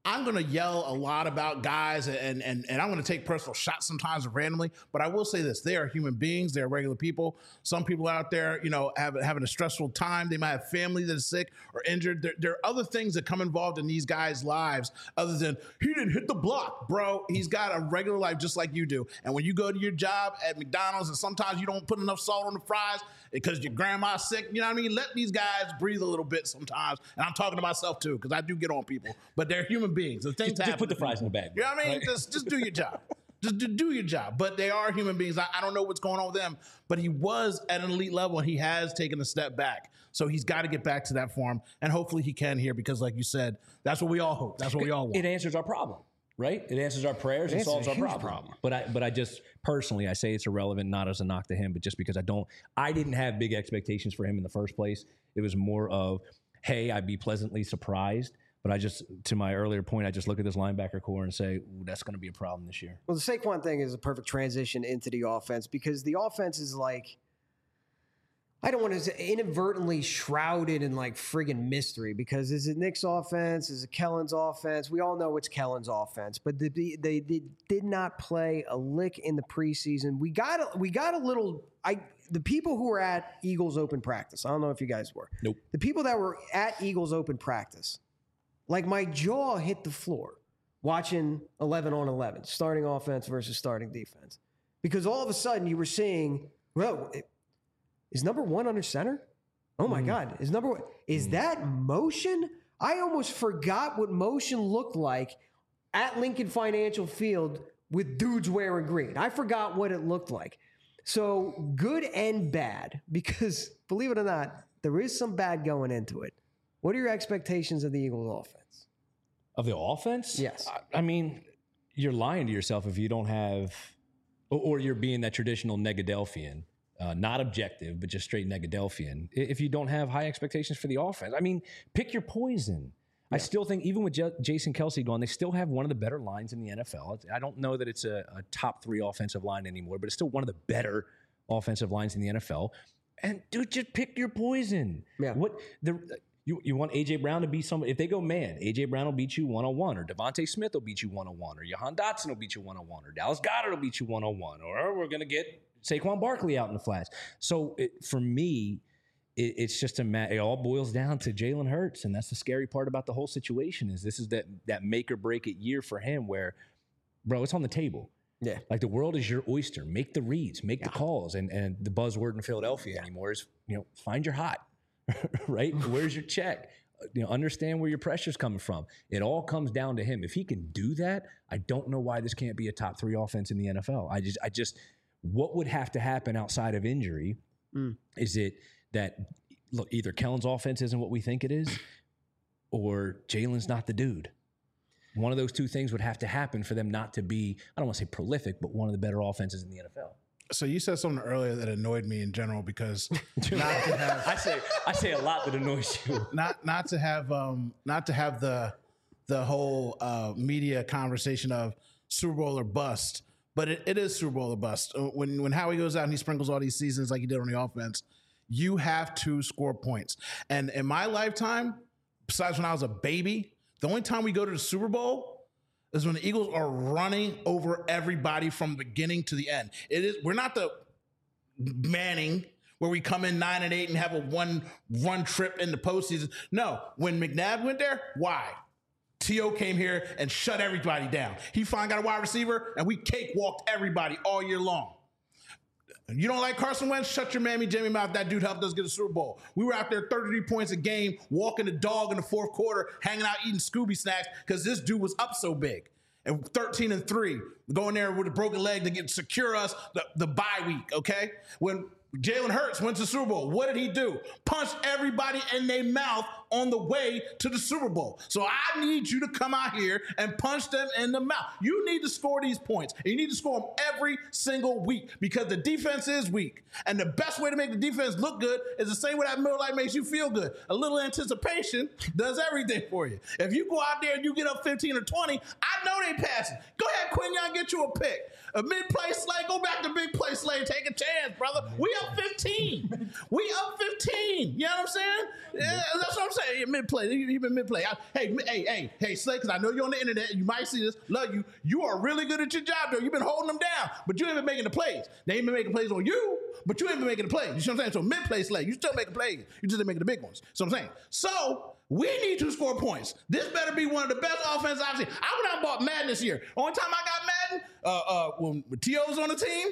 I'm going to yell a lot about guys and, and, and I'm going to take personal shots sometimes randomly, but I will say this, they are human beings. They're regular people. Some people out there, you know, have, having a stressful time. They might have family that is sick or injured. There, there are other things that come involved in these guys' lives other than he didn't hit the block, bro. He's got a regular life just like you do. And when you go to your job at McDonald's and sometimes you don't put enough salt on the fries because your grandma's sick, you know what I mean? Let these guys breathe a little bit sometimes. And I'm talking to myself too, because I do get on people, but they're human beings. The things just, just put the fries in the bag. You know what I mean? Right? Just, just do your job. Just do, do your job. But they are human beings. I, I don't know what's going on with them, but he was at an elite level and he has taken a step back. So he's got to get back to that form. And hopefully he can here because, like you said, that's what we all hope. That's what we all want. It answers our problem. Right? It answers our prayers and solves our problem. problem. But I but I just personally I say it's irrelevant, not as a knock to him, but just because I don't I didn't have big expectations for him in the first place. It was more of, hey, I'd be pleasantly surprised. But I just, to my earlier point, I just look at this linebacker core and say, ooh, that's going to be a problem this year. Well, the Saquon thing is a perfect transition into the offense because the offense is like, I don't want to say inadvertently shrouded in like friggin' mystery because is it Nick's offense? Is it Kellen's offense? We all know it's Kellen's offense, but they, they, they did not play a lick in the preseason. We got a, we got a little, I the people who were at Eagles open practice, I don't know if you guys were. Nope. The people that were at Eagles open practice, like my jaw hit the floor watching eleven on eleven, starting offense versus starting defense. Because all of a sudden you were seeing, well, is number one under center? Oh my mm. God, is number one, is mm. that motion? I almost forgot what motion looked like at Lincoln Financial Field with dudes wearing green. I forgot what it looked like. So good and bad, because believe it or not, there is some bad going into it. What are your expectations of the Eagles offense? Of the offense? Yes. I, I mean, you're lying to yourself if you don't have, or, or you're being that traditional Negadelphian, uh, not objective, but just straight Negadelphian. If you don't have high expectations for the offense, I mean, pick your poison. Yeah. I still think even with J- Jason Kelce gone, they still have one of the better lines in the N F L. I don't know that it's a, a top three offensive line anymore, but it's still one of the better offensive lines in the N F L. And dude, just pick your poison. Yeah. What the You you want A J Brown to beat somebody? If they go man, A J Brown will beat you one-on-one, or Devontae Smith will beat you one-on-one, or Jahan Dotson will beat you one-on-one, or Dallas Goedert will beat you one-on-one, or we're going to get Saquon Barkley out in the flats. So it, for me, it, it's just a ma- it all boils down to Jalen Hurts, and that's the scary part about the whole situation is this is that that make or break it year for him where, bro, it's on the table. Yeah. Like the world is your oyster. Make the reads, make yeah. the calls, and and the buzzword in Philadelphia yeah. anymore is, you know, find your hot. Right? Where's your check? You know, understand where your pressure's coming from. It all comes down to him. If he can do that, I don't know why this can't be a top three offense in the N F L. I just, I just, what would have to happen outside of injury? Mm. Is it that look, either Kellen's offense isn't what we think it is, or Jalen's not the dude? One of those two things would have to happen for them not to be, I don't want to say prolific, but one of the better offenses in the N F L. So you said something earlier that annoyed me in general because not to have I say I say a lot that annoys you. Not not to have um not to have the the whole uh, media conversation of Super Bowl or bust, but it, it is Super Bowl or bust. When when Howie goes out and he sprinkles all these seasons like he did on the offense, you have to score points. And in my lifetime, besides when I was a baby, the only time we go to the Super Bowl is when the Eagles are running over everybody from the beginning to the end. It is we're not the Manning where we come in nine and eight and have a one run trip in the postseason. No, when McNabb went there, why? T O came here and shut everybody down. He finally got a wide receiver and we cakewalked everybody all year long. You don't like Carson Wentz? Shut your mammy Jamie mouth. That dude helped us get a Super Bowl. We were out there thirty-three points a game, walking the dog in the fourth quarter, hanging out eating Scooby snacks because this dude was up so big. And thirteen and three, going there with a broken leg to get secure us the, the bye week, okay? When Jalen Hurts went to the Super Bowl, what did he do? Punched everybody in their mouth on the way to the Super Bowl. So I need you to come out here and punch them in the mouth. You need to score these points. And you need to score them every single week because the defense is weak. And the best way to make the defense look good is the same way that Miller Lite makes you feel good. A little anticipation does everything for you. If you go out there and you get up fifteen or twenty, I know they passing. Go ahead, Quinn Young, get you a pick. A mid-play slay, go back to big play slay. Take a chance, brother. We up fifteen. We up fifteen. You know what I'm saying? Yeah, that's what I'm saying. Mid play, even mid play. Hey, hey, hey, hey, Slay, because I know you're on the internet. You might see this. Love you. You are really good at your job, though. You've been holding them down, but you ain't been making the plays. They ain't been making plays on you, but you ain't been making the plays. You see what I'm saying? So mid play, Slay, you still making plays. You just ain't making the big ones. So I'm saying. So we need to score points. This better be one of the best offenses I've seen. I went out and bought Madden this year. Only time I got Madden, uh, uh, when T O's on the team,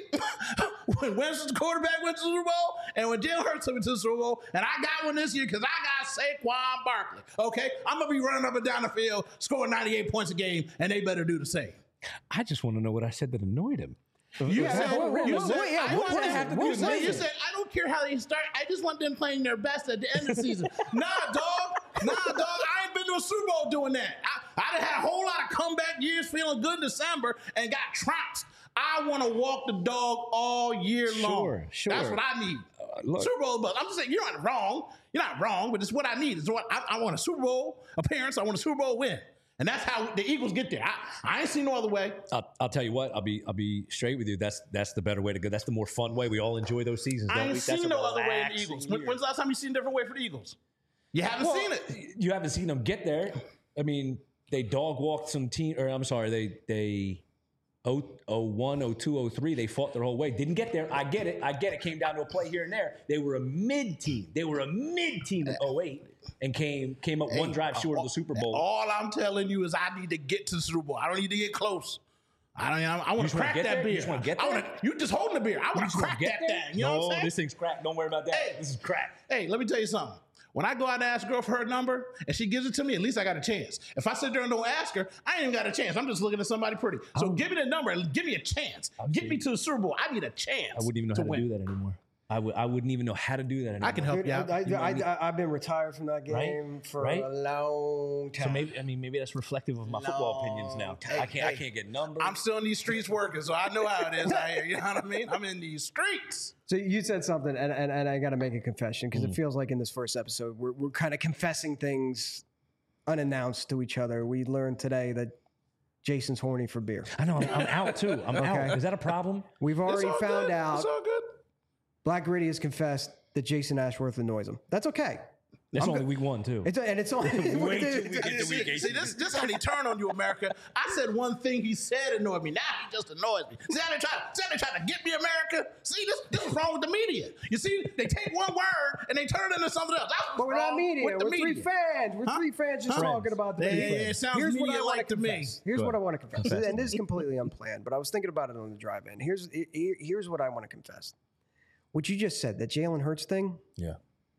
when Winston's quarterback went to the Super Bowl, and when Jalen Hurts went to the Super Bowl, and I got one this year because I got Saquon Barkley. Okay, I'm gonna be running up and down the field, scoring ninety-eight points a game, and they better do the same. I just want to know what I said that annoyed him. You said, what- you what- said, what- yeah, I what want does it to have to do with you Madden? said, I don't care how they start. I just want them playing their best at the end of the season. Nah, dog. Nah, dog. I ain't been to a Super Bowl doing that. I, I done had a whole lot of comeback years feeling good in December and got trounced. I want to walk the dog all year Sure, long. sure. That's what I need. Uh, look. Super Bowl, but I'm just saying, you're not wrong. You're not wrong, but it's what I need. It's what I, I want a Super Bowl appearance. I want a Super Bowl win. And that's how the Eagles get there. I, I ain't seen no other way. I'll, I'll tell you what. I'll be I'll be straight with you. That's that's the better way to go. That's the more fun way. We all enjoy those seasons. Don't I ain't we? That's seen a no other way in the relaxing Eagles. When, year. when's the last time you seen a different way for the Eagles? You haven't Well, seen it. You haven't seen them get there. I mean, they dog walked some team. Or I'm sorry, they they oh one, oh two, oh three. They fought their whole way. Didn't get there. I get it. I get it. Came down to a play here and there. They were a mid team. They were a mid team in oh eight and came came up one drive short of the Super Bowl. All I'm telling you is I need to get to the Super Bowl. I don't need to get close. I don't. I, I want just to wanna crack get that there? You beer. just wanna get I there? wanna, you just holding the beer. I want to crack that thing. You know no, what I'm saying? this thing's cracked. Don't worry about that. Hey. This is cracked. Hey, let me tell you something. When I go out and ask a girl for her number and she gives it to me, at least I got a chance. If I sit there and don't ask her, I ain't even got a chance. I'm just looking at somebody pretty. So give me the number and give me a chance. Get me to the Super Bowl. I need a chance. I wouldn't even know to how to win. do that anymore. I would. I wouldn't even know how to do that anymore. I can help Dude, you out. I, You I, might I, I, I've been retired from that game Right? for Right? a long time. So maybe I mean maybe that's reflective of my football opinions now. Hey, I can't I hey. can't get numbers. I'm still in these streets working, so I know how it is out here. You know what I mean? I'm in these streets. So you said something, and, and, and I got to make a confession because Mm. it feels like in this first episode we're we're kind of confessing things unannounced to each other. We learned today that Jason's horny for beer. I know I'm, I'm out too. I'm Okay. out. Is that a problem? We've already It's all found good. out It's all good. Black Gritty has confessed that Jason Ashworth annoys him. That's okay. It's I'm only good. week one too. It's and it's only Wait till we get to See, week eight. see, this this how they turn on you, America. I said one thing he said annoyed me. Now he just annoys me. See how they try, see how they try to get me, America? See, this this is wrong with the media. You see, they take one word and they turn it into something else. That's what's But we're not wrong media. with the We're media. three fans. We're Huh? three fans just Huh? talking about the Yeah, three yeah, fans. it sounds Here's what I media-like want to me. confess. Here's Go what I ahead. want to confess. And this is completely unplanned, but I was thinking about it on the drive-in. Here's here- here's what I want to confess. What you just said, that Jalen Hurts thing, Yeah,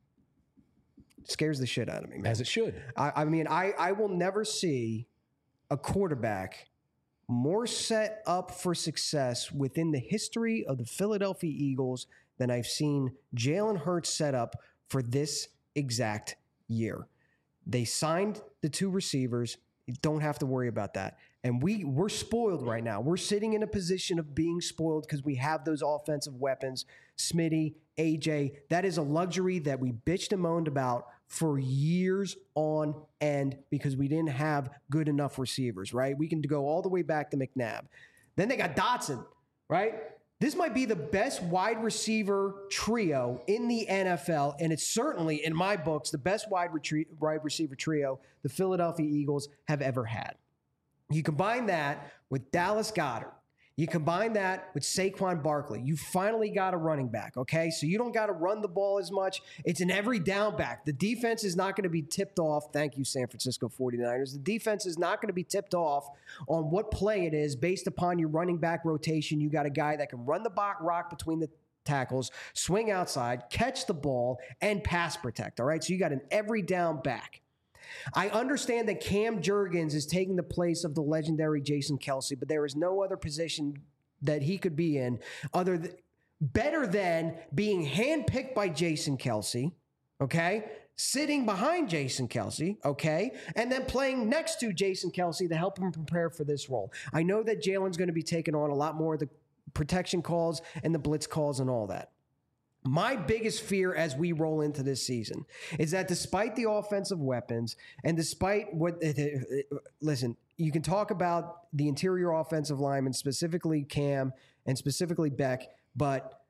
scares the shit out of me, man. as it should. I, I mean, I, I will never see a quarterback more set up for success within the history of the Philadelphia Eagles than I've seen Jalen Hurts set up for this exact year. They signed the two receivers. You don't have to worry about that. And we, we're spoiled right now. We're sitting in a position of being spoiled because we have those offensive weapons. Smitty, A J, that is a luxury that we bitched and moaned about for years on end because we didn't have good enough receivers, right? We can go all the way back to McNabb. Then they got Dotson, right? This might be the best wide receiver trio in the N F L, and it's certainly, in my books, the best wide, retrie- wide receiver trio the Philadelphia Eagles have ever had. You combine that with Dallas Goedert. You combine that with Saquon Barkley. You finally got a running back, okay? So you don't got to run the ball as much. It's an every down back. The defense is not going to be tipped off. Thank you, San Francisco forty-niners. The defense is not going to be tipped off on what play it is based upon your running back rotation. You got a guy that can run the bo- rock between the tackles, swing outside, catch the ball, and pass protect, all right? So you got an every down back. I understand that Cam Jurgens is taking the place of the legendary Jason Kelce, but there is no other position that he could be in other th- better than being handpicked by Jason Kelce, okay? Sitting behind Jason Kelce, okay? And then playing next to Jason Kelce to help him prepare for this role. I know that Jalen's going to be taking on a lot more of the protection calls and the blitz calls and all that. My biggest fear as we roll into this season is that despite the offensive weapons and despite what, listen, you can talk about the interior offensive linemen, specifically Cam and specifically Beck, but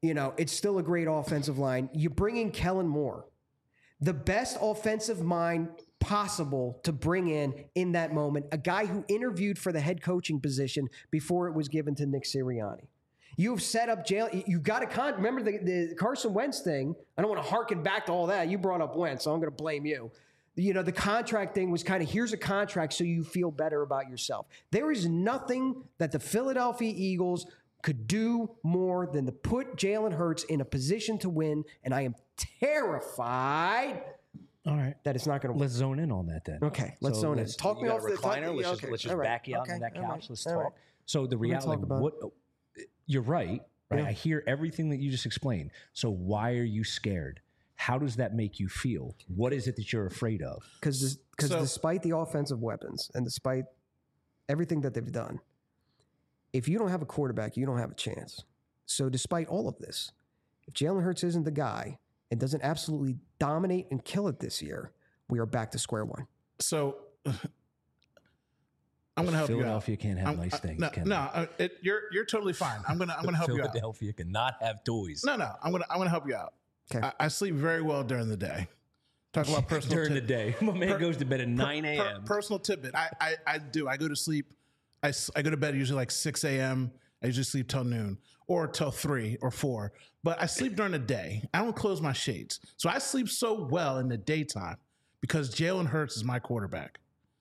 You know, it's still a great offensive line. You bring in Kellen Moore, the best offensive mind possible to bring in in that moment, a guy who interviewed for the head coaching position before it was given to Nick Sirianni. You've set up jail. You got to con. Remember the, the Carson Wentz thing. I don't want to harken back to all that. You brought up Wentz, so I'm going to blame you. You know, the contract thing was kind of, here's a contract so you feel better about yourself. There is nothing that the Philadelphia Eagles could do more than to put Jalen Hurts in a position to win, and I am terrified All right. that it's not going to Let's zone in on that then. Okay, let's So zone in. let's- Talk you me got off a the- talk- recliner. Let's yeah, just, okay, let's just all right, back you out okay, on that all couch. right, Let's all talk. right. So the We're gonna reality, talk about what you're right, right? Yeah. I hear everything that you just explained. So why are you scared? How does that make you feel? What is it that you're afraid of? Because because So- despite the offensive weapons and despite everything that they've done, if you don't have a quarterback, you don't have a chance. So despite all of this, if Jalen Hurts isn't the guy and doesn't absolutely dominate and kill it this year, we are back to square one. So I'm going to help you out. Philadelphia can't have I'm- nice I- things. No, can no, uh, it, you're you're totally fine. I'm gonna I'm gonna help you out. Philadelphia cannot have toys. No, no, I'm gonna I'm gonna help you out. Okay. I, I sleep very well during the day. Talk about personal During the tip- day, my man Per- goes to bed at nine per- a.m. personal tidbit. I, I I do. I go to sleep. I, s- I go to bed usually like six a.m. I usually sleep till noon or till three or four. But I sleep during the day. I don't close my shades, so I sleep so well in the daytime because Jalen Hurts is my quarterback.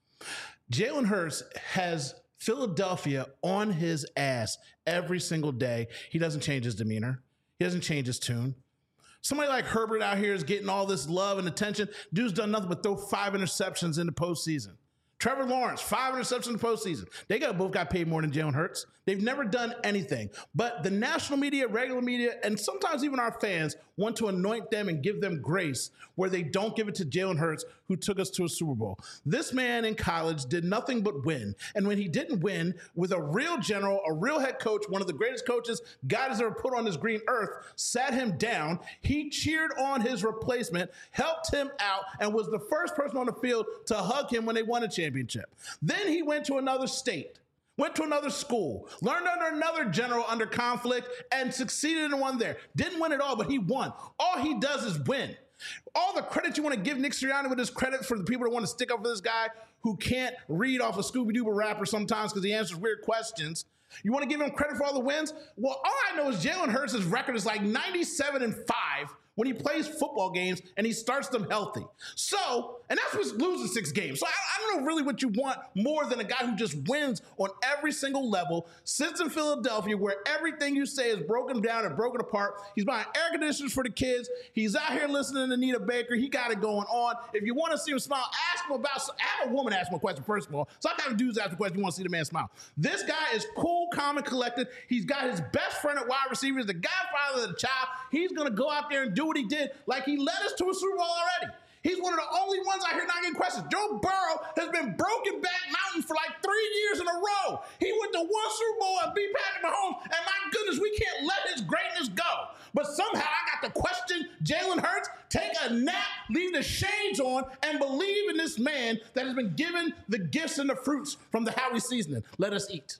Jalen Hurts has Philadelphia on his ass every single day. He doesn't change his demeanor. He doesn't change his tune. Somebody like Herbert out here is getting all this love and attention. Dude's done nothing but throw five interceptions in the postseason. Trevor Lawrence, five interceptions in the postseason. They got both got paid more than Jalen Hurts. They've never done anything. But the national media, regular media, and sometimes even our fans want to anoint them and give them grace where they don't give it to Jalen Hurts, who took us to a Super Bowl. This man in college did nothing but win. And when he didn't win with a real general, a real head coach, one of the greatest coaches God has ever put on this green earth, sat him down. He cheered on his replacement, helped him out, and was the first person on the field to hug him when they won a championship. Then he went to another state. Went to another school, learned under another general under conflict, and succeeded in one there. Didn't win it all, but he won. All he does is win. All the credit you want to give Nick Sirianni with his credit for the people that want to stick up for this guy who can't read off a Scooby-Doo rapper sometimes because he answers weird questions. You want to give him credit for all the wins? Well, all I know is Jalen Hurts' record is like ninety-seven and five when he plays football games and he starts them healthy. So, and that's what's losing six games. So I, I don't know really what you want more than a guy who just wins on every single level, sits in Philadelphia where everything you say is broken down and broken apart. He's buying air conditioners for the kids. He's out here listening to Nita Baker. He got it going on. If you want to see him smile, ask him about, have a woman ask him a question first of all. So I have dudes ask a question, you want to see the man smile. This guy is cool, calm, and collected. He's got his best friend at wide receiver, the godfather of the child. He's going to go out there and do what he did, like he led us to a Super Bowl already. He's one of the only ones I hear not getting questions. Joe Burrow has been broken back mountain for like three years in a row. He went to one Super Bowl and beat Patrick Mahomes, and my goodness, we can't let his greatness go. But somehow I got to question Jalen Hurts, take a nap, leave the shades on, and believe in this man that has been given the gifts and the fruits from the Howie seasoning. Let us eat.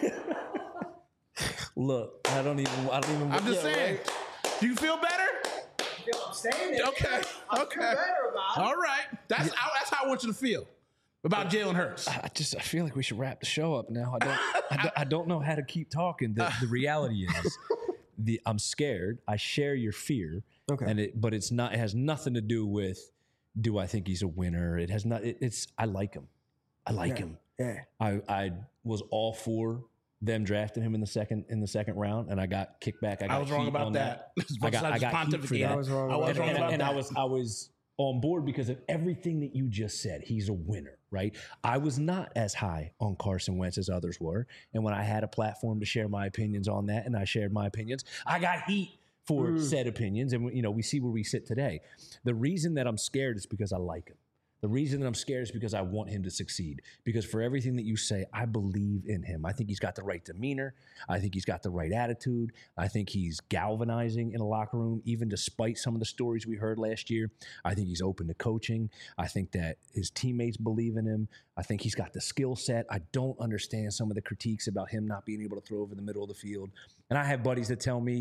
Look, I don't even. I don't even. I'm just yeah, saying. right? Do you feel better? I'm saying it. Okay. I Okay. feel better about it. All right. That's how, that's how I want you to feel about Jalen Hurts. I just I feel like we should wrap the show up now. I don't I, don't, I don't know how to keep talking. The, the reality is, the I'm scared. I share your fear. Okay. And it, but it's not. It has nothing to do with. Do I think he's a winner? It has not. It, it's. I like him. I like Yeah. him. Yeah. I I was all for them drafting him in the second in the second round, and I got kicked back. I, got I was wrong heat about on that. I got I got heat for that. I was wrong I was and, wrong and- about and that. I was I was on board because of everything that you just said. He's a winner, right? I was not as high on Carson Wentz as others were, and when I had a platform to share my opinions on that, and I shared my opinions, I got heat for Mm. said opinions, and you know we see where we sit today. The reason that I'm scared is because I like him. The reason that I'm scared is because I want him to succeed. Because for everything that you say, I believe in him. I think he's got the right demeanor. I think he's got the right attitude. I think he's galvanizing in a locker room, even despite some of the stories we heard last year. I think he's open to coaching. I think that his teammates believe in him. I think he's got the skill set. I don't understand some of the critiques about him not being able to throw over the middle of the field. And I have buddies that tell me,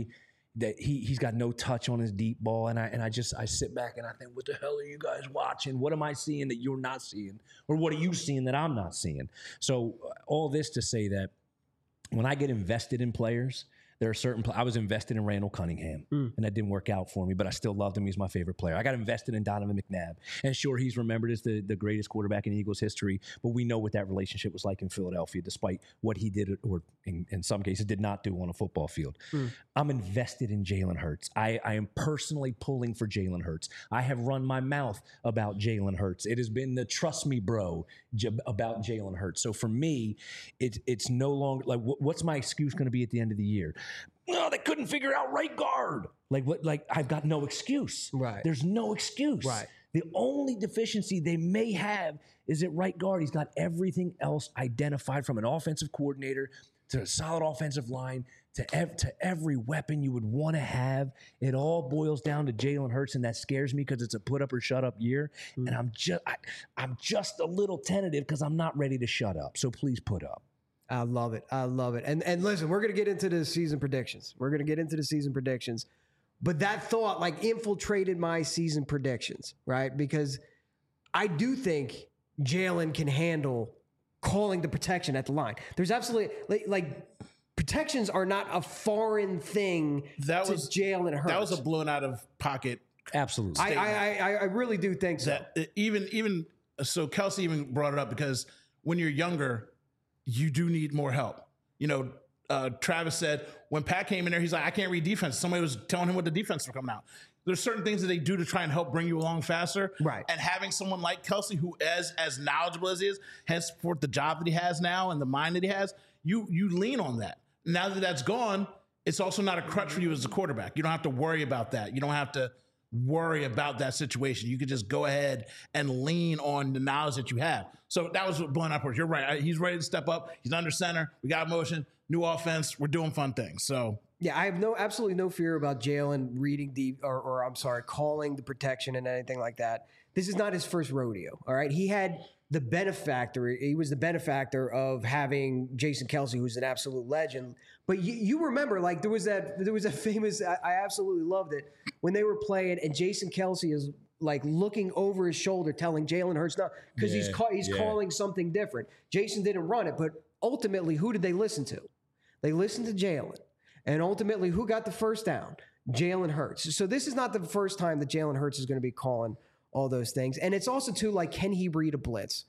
that he he's got no touch on his deep ball, and I and I just I sit back and I think, what the hell are you guys watching? What am I seeing that you're not seeing, or what are you seeing that I'm not seeing? So all this to say that when I get invested in players, there are certain. I was invested in Randall Cunningham, mm. and that didn't work out for me. But I still loved him. He's my favorite player. I got invested in Donovan McNabb, and sure, he's remembered as the, the greatest quarterback in Eagles history. But we know what that relationship was like in Philadelphia, despite what he did, or in, in some cases did not do on a football field. Mm. I'm invested in Jalen Hurts. I, I am personally pulling for Jalen Hurts. I have run my mouth about Jalen Hurts. It has been the trust me, bro, j- about Jalen Hurts. So for me, it's it's no longer like wh- what's my excuse going to be at the end of the year? No, they couldn't figure out right guard. Like what? Like I've got no excuse. Right. There's no excuse. Right. The only deficiency they may have is at right guard. He's got everything else identified, from an offensive coordinator to a solid offensive line to ev- to every weapon you would want to have. It all boils down to Jalen Hurts, and that scares me because it's a put up or shut up year. Mm. And I'm just I, I'm just a little tentative because I'm not ready to shut up. So please put up. I love it. I love it. And and listen, we're going to get into the season predictions. We're going to get into the season predictions. But that thought like infiltrated my season predictions, right? Because I do think Jalen can handle calling the protection at the line. There's absolutely like, like protections are not a foreign thing that to was, Jalen Hurts. That was a blown out of pocket. Absolutely. I, I, I, I really do think so. That even, even so Kelsey even brought it up because when you're younger, you do need more help. You know, uh, Travis said when Pat came in there, he's like, I can't read defense. Somebody was telling him what the defense was coming out. There's certain things that they do to try and help bring you along faster. Right. And having someone like Kelsey, who as as knowledgeable as he is, henceforth the job that he has now and the mind that he has, you you lean on that. Now that that's gone, it's also not a crutch for you as a quarterback. You don't have to worry about that. You don't have to worry about that situation. You could just go ahead and lean on the knowledge that you have. So that was what blowing up. You're right. He's ready to step up. He's under center. We got motion, new offense. We're doing fun things. So yeah, I have no absolutely no fear about Jalen reading the or, or I'm sorry, calling the protection and anything like that. This is not his first rodeo. All right, he had the benefactor. He was the benefactor of having Jason Kelsey, who's an absolute legend. But you, you remember, like there was that there was a famous. I, I absolutely loved it when they were playing, and Jason Kelsey is like looking over his shoulder, telling Jalen Hurts no, because yeah, he's ca- he's yeah. calling something different. Jason didn't run it, but ultimately, who did they listen to? They listened to Jalen, and ultimately, who got the first down? Jalen Hurts. So this is not the first time that Jalen Hurts is going to be calling all those things. And it's also, too, like, can he read a blitz?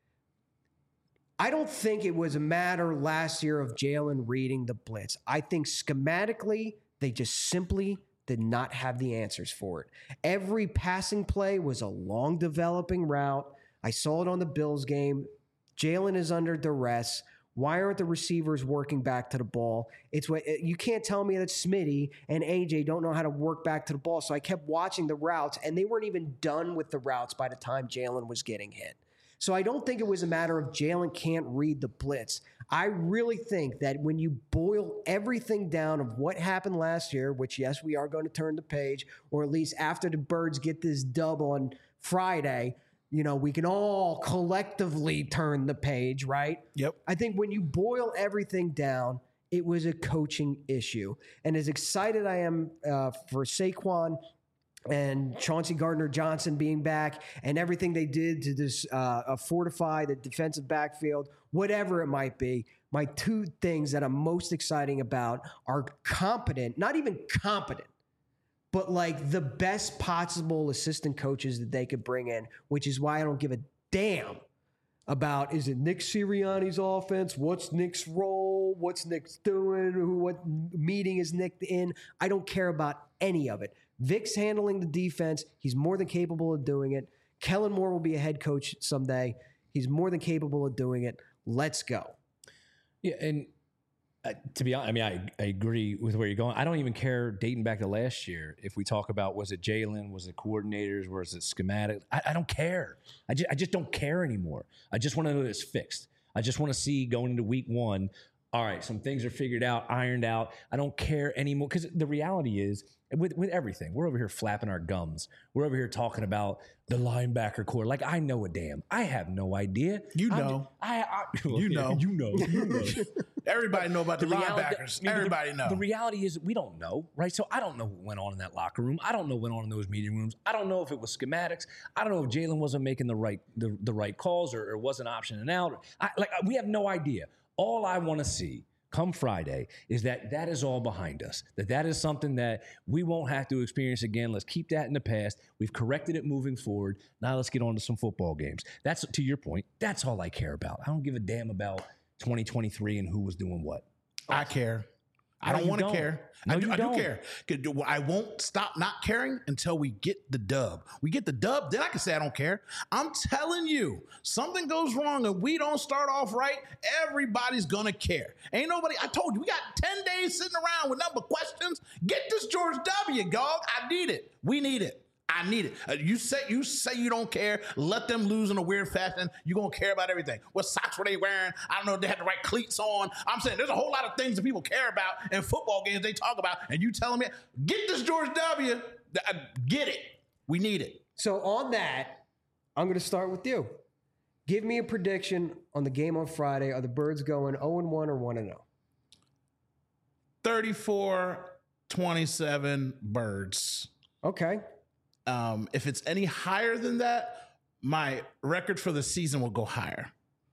I don't think it was a matter last year of Jalen reading the blitz. I think schematically, they just simply did not have the answers for it. Every passing play was a long developing route. I saw it on the Bills game. Jalen is under duress. Why aren't the receivers working back to the ball? It's what you can't tell me that Smitty and A J don't know how to work back to the ball. So I kept watching the routes, and they weren't even done with the routes by the time Jalen was getting hit. So I don't think it was a matter of Jalen can't read the blitz. I really think that when you boil everything down of what happened last year, which, yes, we are going to turn the page, or at least after the Birds get this dub on Friday, you know, we can all collectively turn the page, right? Yep. I think when you boil everything down, it was a coaching issue. And as excited I am uh, for Saquon and Chauncey Gardner-Johnson being back and everything they did to this uh, fortify the defensive backfield, whatever it might be, my two things that I'm most exciting about are competent, not even competent, but like the best possible assistant coaches that they could bring in, which is why I don't give a damn about, is it Nick Sirianni's offense? What's Nick's role? What's Nick's doing? Who, what meeting is Nick in? I don't care about any of it. Vic's handling the defense. He's more than capable of doing it. Kellen Moore will be a head coach someday. He's more than capable of doing it. Let's go. Yeah, and Uh, to be honest, I mean, I, I agree with where you're going. I don't even care dating back to last year. If we talk about, was it Jalen, was it coordinators, was it schematic? I, I don't care. I just, I just don't care anymore. I just want to know that it's fixed. I just want to see going into week one, all right, some things are figured out, ironed out. I don't care anymore because the reality is with with everything. We're over here flapping our gums. We're over here talking about the linebacker core. Like I know a damn. I have no idea. You I'm know. just- I, I You know. You know. You know. Everybody know about the, reality- linebackers. I mean, Everybody the, know. The reality is we don't know, right? So I don't know what went on in that locker room. I don't know what went on in those meeting rooms. I don't know if it was schematics. I don't know if Jalen wasn't making the right the, the right calls or, or wasn't optioning out. I, like we have no idea. All I want to see come Friday is that that is all behind us, that that is something that we won't have to experience again. Let's keep that in the past. We've corrected it moving forward. Now let's get on to some football games. That's, to your point, that's all I care about. I don't give a damn about twenty twenty-three and who was doing what. I care. I No, don't you want to don't. care. No, I, do, you I do don't. care. 'Cause I won't stop not caring until we get the dub. We get the dub, then I can say I don't care. I'm telling you, something goes wrong and we don't start off right, everybody's gonna care. Ain't nobody, I told you, we got ten days sitting around with number questions. Get this George W, dog. I need it. We need it. I need it. Uh, you say you say you don't care. Let them lose in a weird fashion. You're going to care about everything. What socks were they wearing? I don't know if they had the right cleats on. I'm saying there's a whole lot of things that people care about in football games they talk about. And you telling me, get this George W. Uh, Get it. We need it. So on that, I'm going to start with you. Give me a prediction on the game on Friday. Are the Birds going oh and one or one and oh? thirty-four twenty-seven Birds. Okay. Um, if it's any higher than that, my record for the season will go higher.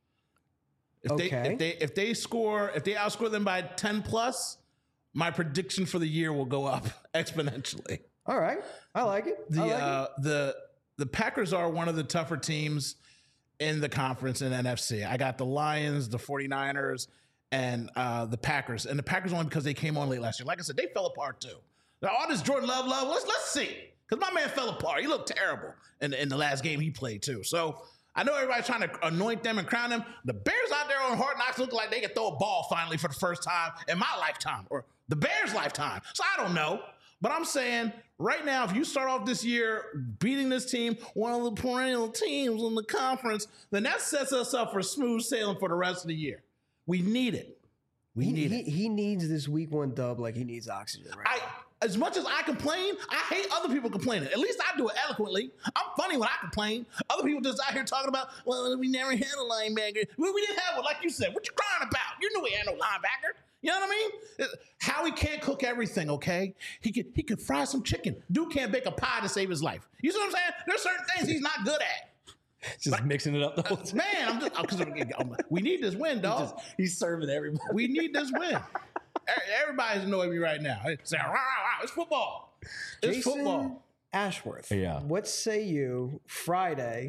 If Okay. they if they if they score if they outscore them by ten plus, my prediction for the year will go up exponentially. All right. I like it. The I like uh, the the Packers are one of the tougher teams in the conference in N F C. I got the Lions, the 49ers, and uh, the Packers. And the Packers only because they came on late last year. Like I said, they fell apart too. Now, all this Jordan Love, love, let's let's see. Because my man fell apart. He looked terrible in, in the last game he played, too. So I know everybody's trying to anoint them and crown them. The Bears out there on Hard Knocks look like they could throw a ball finally for the first time in my lifetime or the Bears' lifetime. So I don't know. But I'm saying right now, if you start off this year beating this team, one of the perennial teams in the conference, then that sets us up for smooth sailing for the rest of the year. We need it. We he, need he, it. he needs this week one dub like he needs oxygen right I, now. as much as I complain, I hate other people complaining. At least I do it eloquently. I'm funny when I complain. Other people just out here talking about, well, we never had a linebacker. Well, we didn't have one, like you said. What you crying about? You knew we had no linebacker. You know what I mean? Howie can't cook everything, okay? He could he could fry some chicken. Dude can't bake a pie to save his life. You see what I'm saying? There's certain things he's not good at. Just like, mixing it up the whole time. Man, I'm just, cause we need this win, dog. Just, he's serving everybody. We need this win. Everybody's annoying me right now. It's, rah, rah, rah, it's football. It's Jason football. Ashworth. Yeah. What say you Friday?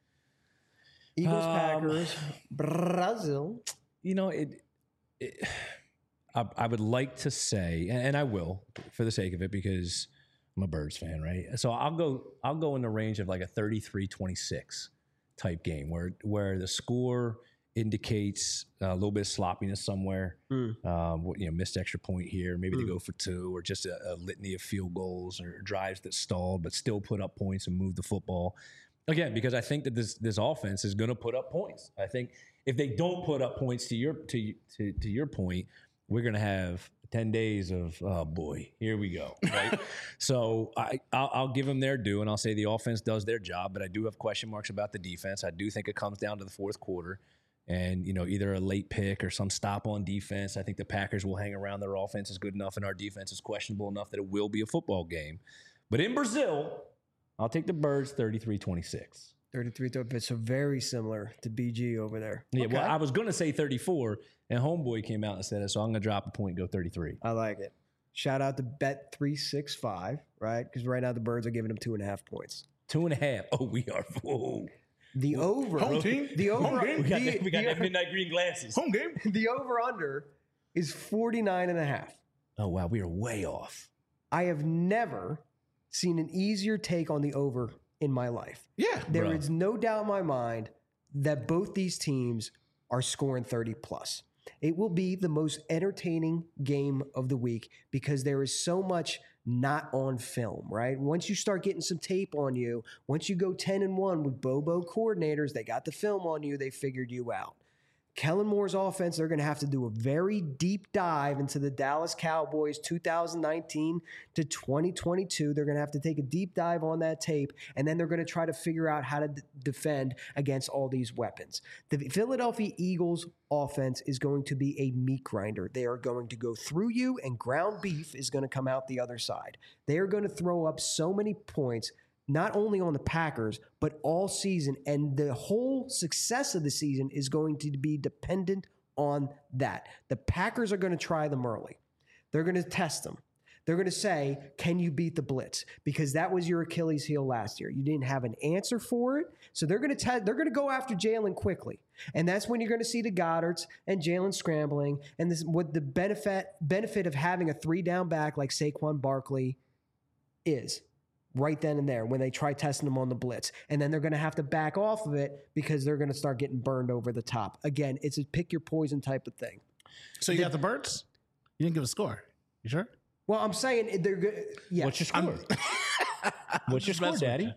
Eagles, Um, Packers, Brazil. You know, it. it I, I would like to say, and, and I will, for the sake of it, because I'm a Birds fan, right? So I'll go. I'll go in the range of like a thirty-three twenty-six type game, where where the score indicates a little bit of sloppiness somewhere. Mm. Um, you know, missed extra point here. Maybe mm. they go for two, or just a, a litany of field goals or drives that stalled, but still put up points and move the football. Again, because I think that this this offense is going to put up points. I think if they don't put up points, to your to to, to your point, we're going to have ten days of, oh boy, here we go, right? So I, I'll, I'll give them their due, and I'll say the offense does their job, but I do have question marks about the defense. I do think it comes down to the fourth quarter, and you know, either a late pick or some stop on defense. I think the Packers will hang around. Their offense is good enough, and our defense is questionable enough that it will be a football game. But in Brazil, I'll take the Birds thirty-three twenty-six. thirty-three, so very similar to B G over there. Yeah, okay. Well, I was going to say thirty-four, and Homeboy came out and said it, so I'm going to drop a point and go thirty-three. I like it. Shout out to Bet three sixty-five, right? Because right now the Birds are giving them two and a half points. Two and a half. Oh, we are. Whoa. The over. Home team. The over. Home game. We got, the, that, we got the, that midnight green glasses. Home game. The over under is forty-nine and a half. Oh, wow. We are way off. I have never seen an easier take on the over in my life. Yeah. There bro. is no doubt in my mind that both these teams are scoring thirty plus. It will be the most entertaining game of the week because there is so much not on film, right? Once you start getting some tape on you, once you go ten and one with Bobo coordinators, they got the film on you, they figured you out. Kellen Moore's offense, they're going to have to do a very deep dive into the Dallas Cowboys two thousand nineteen to twenty twenty-two. They're going to have to take a deep dive on that tape, and then they're going to try to figure out how to d- defend against all these weapons. The Philadelphia Eagles offense is going to be a meat grinder. They are going to go through you, and ground beef is going to come out the other side. They are going to throw up so many points, not only on the Packers, but all season. And the whole success of the season is going to be dependent on that. The Packers are going to try them early. They're going to test them. They're going to say, can you beat the blitz? Because that was your Achilles heel last year. You didn't have an answer for it. So they're going to te- they're going to go after Jalen quickly. And that's when you're going to see the Goddards and Jalen scrambling. And this what the benefit benefit of having a three down back like Saquon Barkley is. Right then and there when they try testing them on the blitz. And then they're going to have to back off of it because they're going to start getting burned over the top. Again, it's a pick your poison type of thing. So you the, got the Birds? You didn't give a score. You sure? Well, I'm saying they're good. Yeah. What's your score? What's your score, Daddy?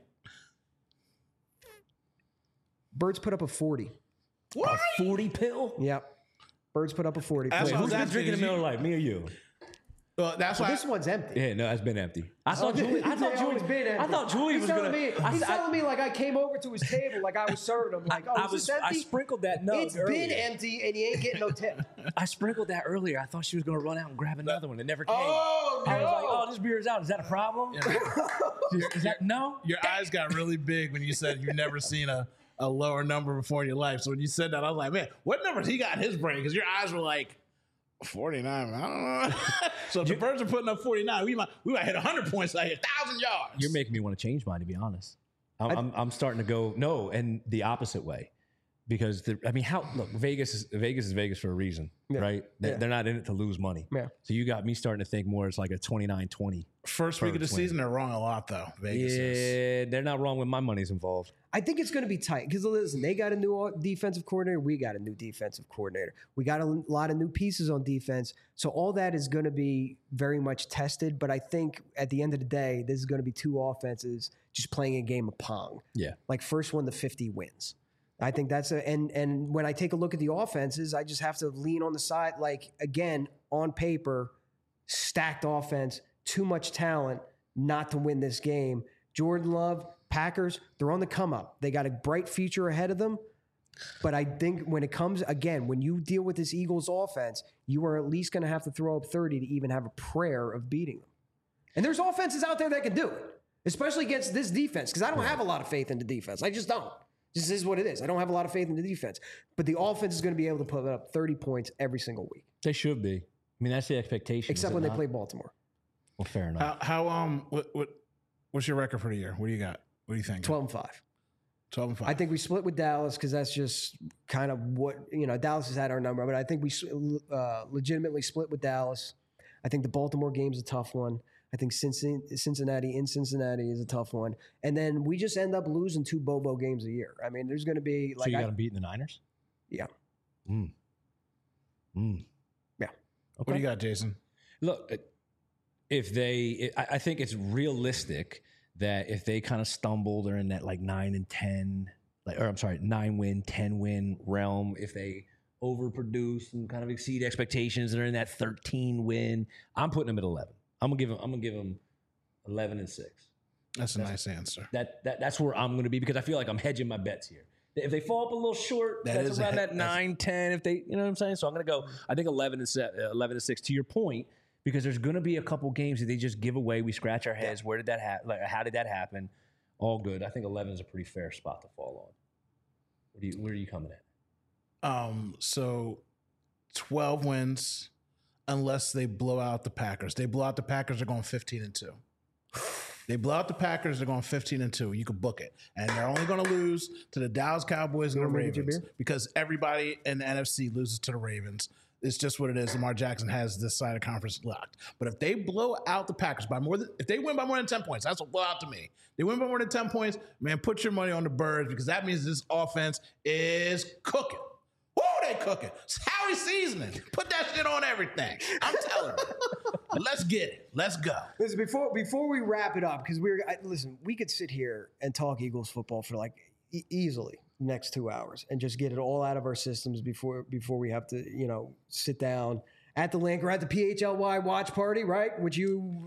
Birds put up a forty. What? A forty pill? Yep. Birds put up a forty. Wait, who's been drinking in Miller Lite, me or you? Well, that's so why this one's empty. Yeah, no, it's been empty. I thought oh, Julie. I thought Julie. Been empty. I thought Julie he's was telling gonna. Me, I, he's I, telling me like I came over to his table, like I was serving him. Like, oh, I is was. this empty? I sprinkled that. No, it's earlier. been empty, and you ain't getting no tip. I sprinkled that earlier. I thought she was gonna run out and grab another one. It never came. Oh no! I was like, oh, this beer is out. Is that a problem? Yeah. is, is that no? Your eyes got really big when you said you've never seen a, a lower number before in your life. So when you said that, I was like, man, what numbers he got in his brain? Because your eyes were like. forty-nine, I don't know. So if the Birds are putting up forty-nine, we might we might hit one hundred points, like one thousand yards. You're making me want to change mine, to be honest. I'm, I, I'm, I'm starting to go, no, and the opposite way. Because, the, I mean, how, look, Vegas is Vegas is Vegas for a reason, yeah. right? They, yeah. They're not in it to lose money. Yeah. So you got me starting to think more it's like a twenty-nine twenty. First week of the season, they're wrong a lot, though. Vegas yeah, is. They're not wrong when my money's involved. I think it's going to be tight because, listen, they got a new defensive coordinator. We got a new defensive coordinator. We got a lot of new pieces on defense. So all that is going to be very much tested. But I think at the end of the day, this is going to be two offenses just playing a game of Pong. Yeah. Like first one to fifty wins. I think that's a and and when I take a look at the offenses, I just have to lean on the side. Like again, on paper, stacked offense, too much talent not to win this game. Jordan Love, Packers, they're on the come up. They got a bright future ahead of them. But I think when it comes again, when you deal with this Eagles offense, you are at least going to have to throw up thirty to even have a prayer of beating them. And there's offenses out there that can do it, especially against this defense. Because I don't have a lot of faith in the defense. I just don't. This is what it is. I don't have a lot of faith in the defense. But the offense is going to be able to put up thirty points every single week. They should be. I mean, that's the expectation. Except when they play Baltimore. Well, fair enough. How, how um what what what's your record for the year? What do you got? What do you think? twelve and five. twelve and five. I think we split with Dallas because that's just kind of what, you know, Dallas has had our number. But I think we uh, legitimately split with Dallas. I think the Baltimore game's a tough one. I think Cincinnati in Cincinnati is a tough one. And then we just end up losing two Bobo games a year. I mean, there's going to be like. So you got them beating the Niners? Yeah. Mm. Mm. Yeah. Okay. What do you got, Jason? Look, if they, I think it's realistic that if they kind of stumble, they're in that like nine and ten, like, or I'm sorry, nine win, ten win realm. If they overproduce and kind of exceed expectations, they're in that thirteen win. I'm putting them at eleven. I'm gonna give them. I'm gonna give them eleven and six. That's a that's, nice answer. That that that's where I'm gonna be because I feel like I'm hedging my bets here. If they fall up a little short, that that's around he- that nine, ten. If they, you know what I'm saying. So I'm gonna go. I think eleven and se- eleven and six. To your point, because there's gonna be a couple games that they just give away. We scratch our heads. Where did that happen? Like, how did that happen? All good. I think eleven is a pretty fair spot to fall on. Where, do you, where are you coming at? Um. So twelve wins. Unless they blow out the Packers. They blow out the Packers, they're going fifteen and two. They blow out the Packers, they're going fifteen and two. You can book it. And they're only going to lose to the Dallas Cowboys and the Ravens because everybody in the N F C loses to the Ravens. It's just what it is. Lamar Jackson has this side of conference locked. But if they blow out the Packers by more than, if they win by more than ten points, that's a blowout to me. They win by more than ten points, man, put your money on the Birds because that means this offense is cooking. Woo, they cooking. It's Howie seasoning. Put that shit on everything. I'm telling you. Let's get it. Let's go. Listen, before before we wrap it up, because we're I, listen, we could sit here and talk Eagles football for like e- easily, next two hours and just get it all out of our systems before before we have to, you know, sit down at the link or at the P H L Y watch party, right? Which you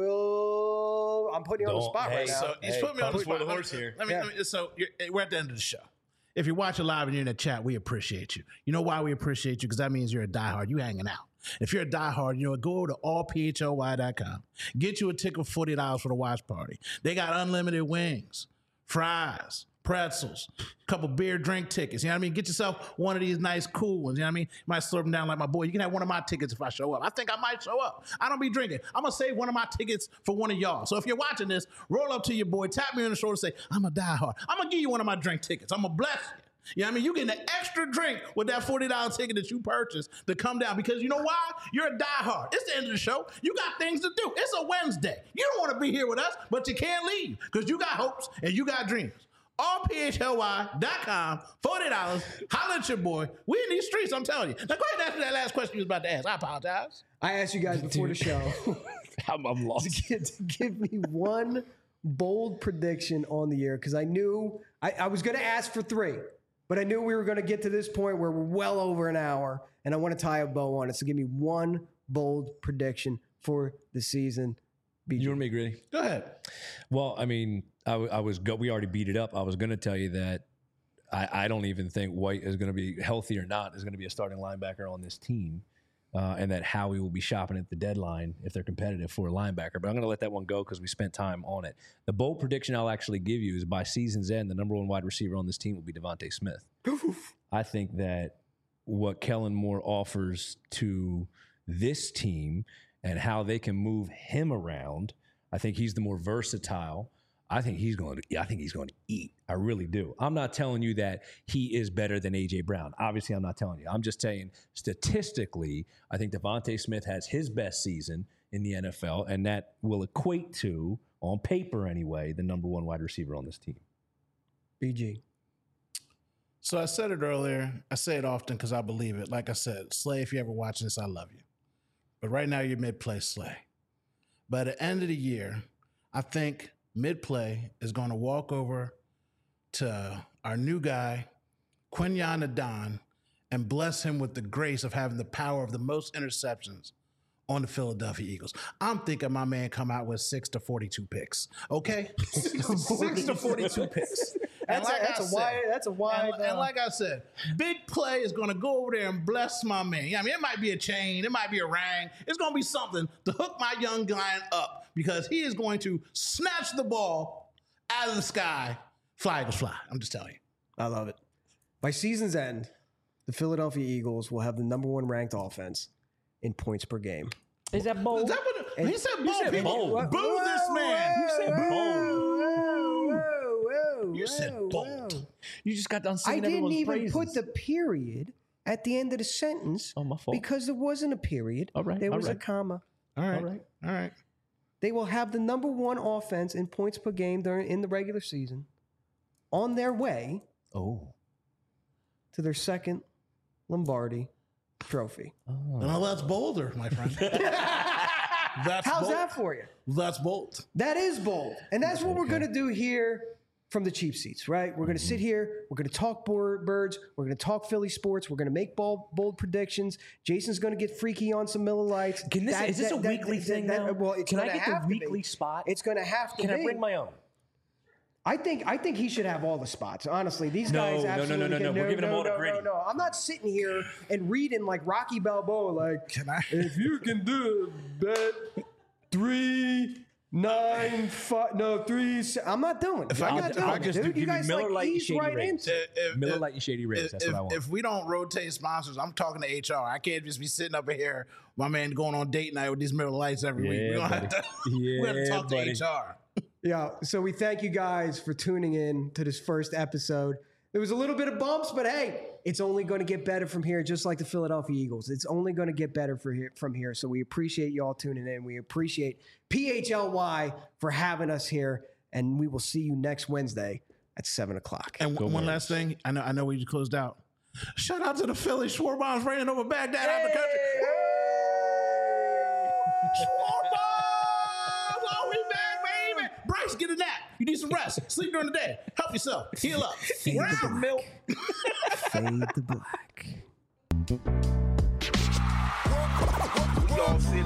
will. I'm putting you on the spot hey, right now. So he's Hey, putting me on the before spot. the horse here. Let me, Yeah. let me, so you're, we're at the end of the show. If you're watching live and you're in the chat, we appreciate you. You know why we appreciate you? Because that means you're a diehard. You hanging out. If you're a diehard, you know, go over to all P H L Y dot com. Get you a ticket for forty dollars for the watch party. They got unlimited wings, fries, pretzels, a couple beer drink tickets. You know what I mean? Get yourself one of these nice cool ones. You know what I mean? You might slurp them down like my boy. You can have one of my tickets if I show up. I think I might show up. I don't be drinking. I'm going to save one of my tickets for one of y'all. So if you're watching this, roll up to your boy, tap me on the shoulder, say, I'm a diehard. I'm going to give you one of my drink tickets. I'm going to bless you. You know what I mean? You get an extra drink with that forty dollars ticket that you purchased to come down because you know why? You're a diehard. It's the end of the show. You got things to do. It's a Wednesday. You don't want to be here with us, but you can't leave because you got hopes and you got dreams. all P H L Y dot com, forty dollars. Holla at your boy. We in these streets, I'm telling you. Now, go ahead and answer that last question you was about to ask. I apologize. I asked you guys before the show I'm, I'm lost. to, give, to give me one bold prediction on the year because I knew I, I was going to ask for three, but I knew we were going to get to this point where we're well over an hour, and I want to tie a bow on it. So give me one bold prediction for the season. B J. You want me, Gritty? Go ahead. Well, I mean, I, w- I was go- we already beat it up. I was going to tell you that I, I don't even think White is going to be healthy or not is going to be a starting linebacker on this team, uh, and that Howie will be shopping at the deadline if they're competitive for a linebacker. But I'm going to let that one go because we spent time on it. The bold prediction I'll actually give you is by season's end, the number one wide receiver on this team will be Devontae Smith. I think that what Kellen Moore offers to this team and how they can move him around, I think he's the more versatile. I think he's going to. I think he's going to eat. I really do. I'm not telling you that he is better than A J Brown. Obviously, I'm not telling you. I'm just saying statistically, I think Devontae Smith has his best season in the N F L, and that will equate to, on paper anyway, the number one wide receiver on this team. B G. So I said it earlier. I say it often because I believe it. Like I said, Slay, if you ever watching this, I love you. But right now you're mid-play, Slay. By the end of the year, I think mid-play is going to walk over to our new guy, Quinyon Adon, and bless him with the grace of having the power of the most interceptions on the Philadelphia Eagles. I'm thinking my man come out with six to forty-two picks. Okay? six to forty-two picks. And That's, like a, that's I a said, wide. That's a wide. and, and uh, like I said, big play is going to go over there and bless my man. Yeah, I mean, it might be a chain, it might be a ring. It's going to be something to hook my young guy up because he is going to snatch the ball out of the sky. Fly Eagles fly. I'm just telling you. I love it. By season's end, the Philadelphia Eagles will have the number one ranked offense in points per game. Is that bold? Is that what And- he said? You Bold. said People, bold. Boo Whoa, this man. whoa, You said whoa, bold. whoa, whoa, You said whoa, bold. whoa. You just got done I singing didn't everyone's even praises. put the period at the end of the sentence Oh, my fault. because there wasn't a period. All right, There all was a right. comma. All right. All right. All right. They will have the number one offense in points per game during in the regular season on their way Oh. to their second Lombardi trophy. Well, that's bolder, my friend. That's How's bold. that for you? That's bold. That is bold. And that's what we're going to do here from the cheap seats, right? We're going to sit here. We're going to talk board birds. We're going to talk Philly sports. We're going to make bold, bold predictions. Jason's going to get freaky on some Miller Lights. Can this- That- is this that- a that- weekly that- thing that- now? Well, it's Can I gonna get the have to be. weekly spot? It's going to have to Can be. I bring my own? I think I think he should have all the spots. Honestly, these No, guys no, no, absolutely no, no, can- no. We're giving him all the no, gritty. No, no, I'm not sitting here and reading like Rocky Balboa. Like, Can I? if you can do bet three, nine, five, no three. se- I'm not doing. it. I I'm could- not if doing, I it, could dude. give You me guys Miller like Lite and ease Shady right Rays. into. it. If- Miller if- Lite and Shady Rays. If, That's what I want. if we don't rotate sponsors, I'm talking to H R. I can't just be sitting up in here, my man, going on date night with these Miller Lights every week. Yeah, We're gonna have buddy. to, we're gonna Yeah, talk buddy. to H R. Yeah. So we thank you guys for tuning in to this first episode. There was a little bit of bumps, but hey, it's only going to get better from here, just like the Philadelphia Eagles. It's only going to get better for here, from here. So we appreciate you all tuning in. We appreciate P H L Y for having us here, and we will see you next Wednesday at seven o'clock. And Go one Birds. last thing, I know, I know we just closed out. Shout out to the Philly Schwarbombs raining over Baghdad out of the country. Schwarbombs, oh, we back, baby. Bryce, get a nap. You need some some rest. Sleep during the day. Help yourself. Heal up. Fade We're the out. black. Fade the black. We all see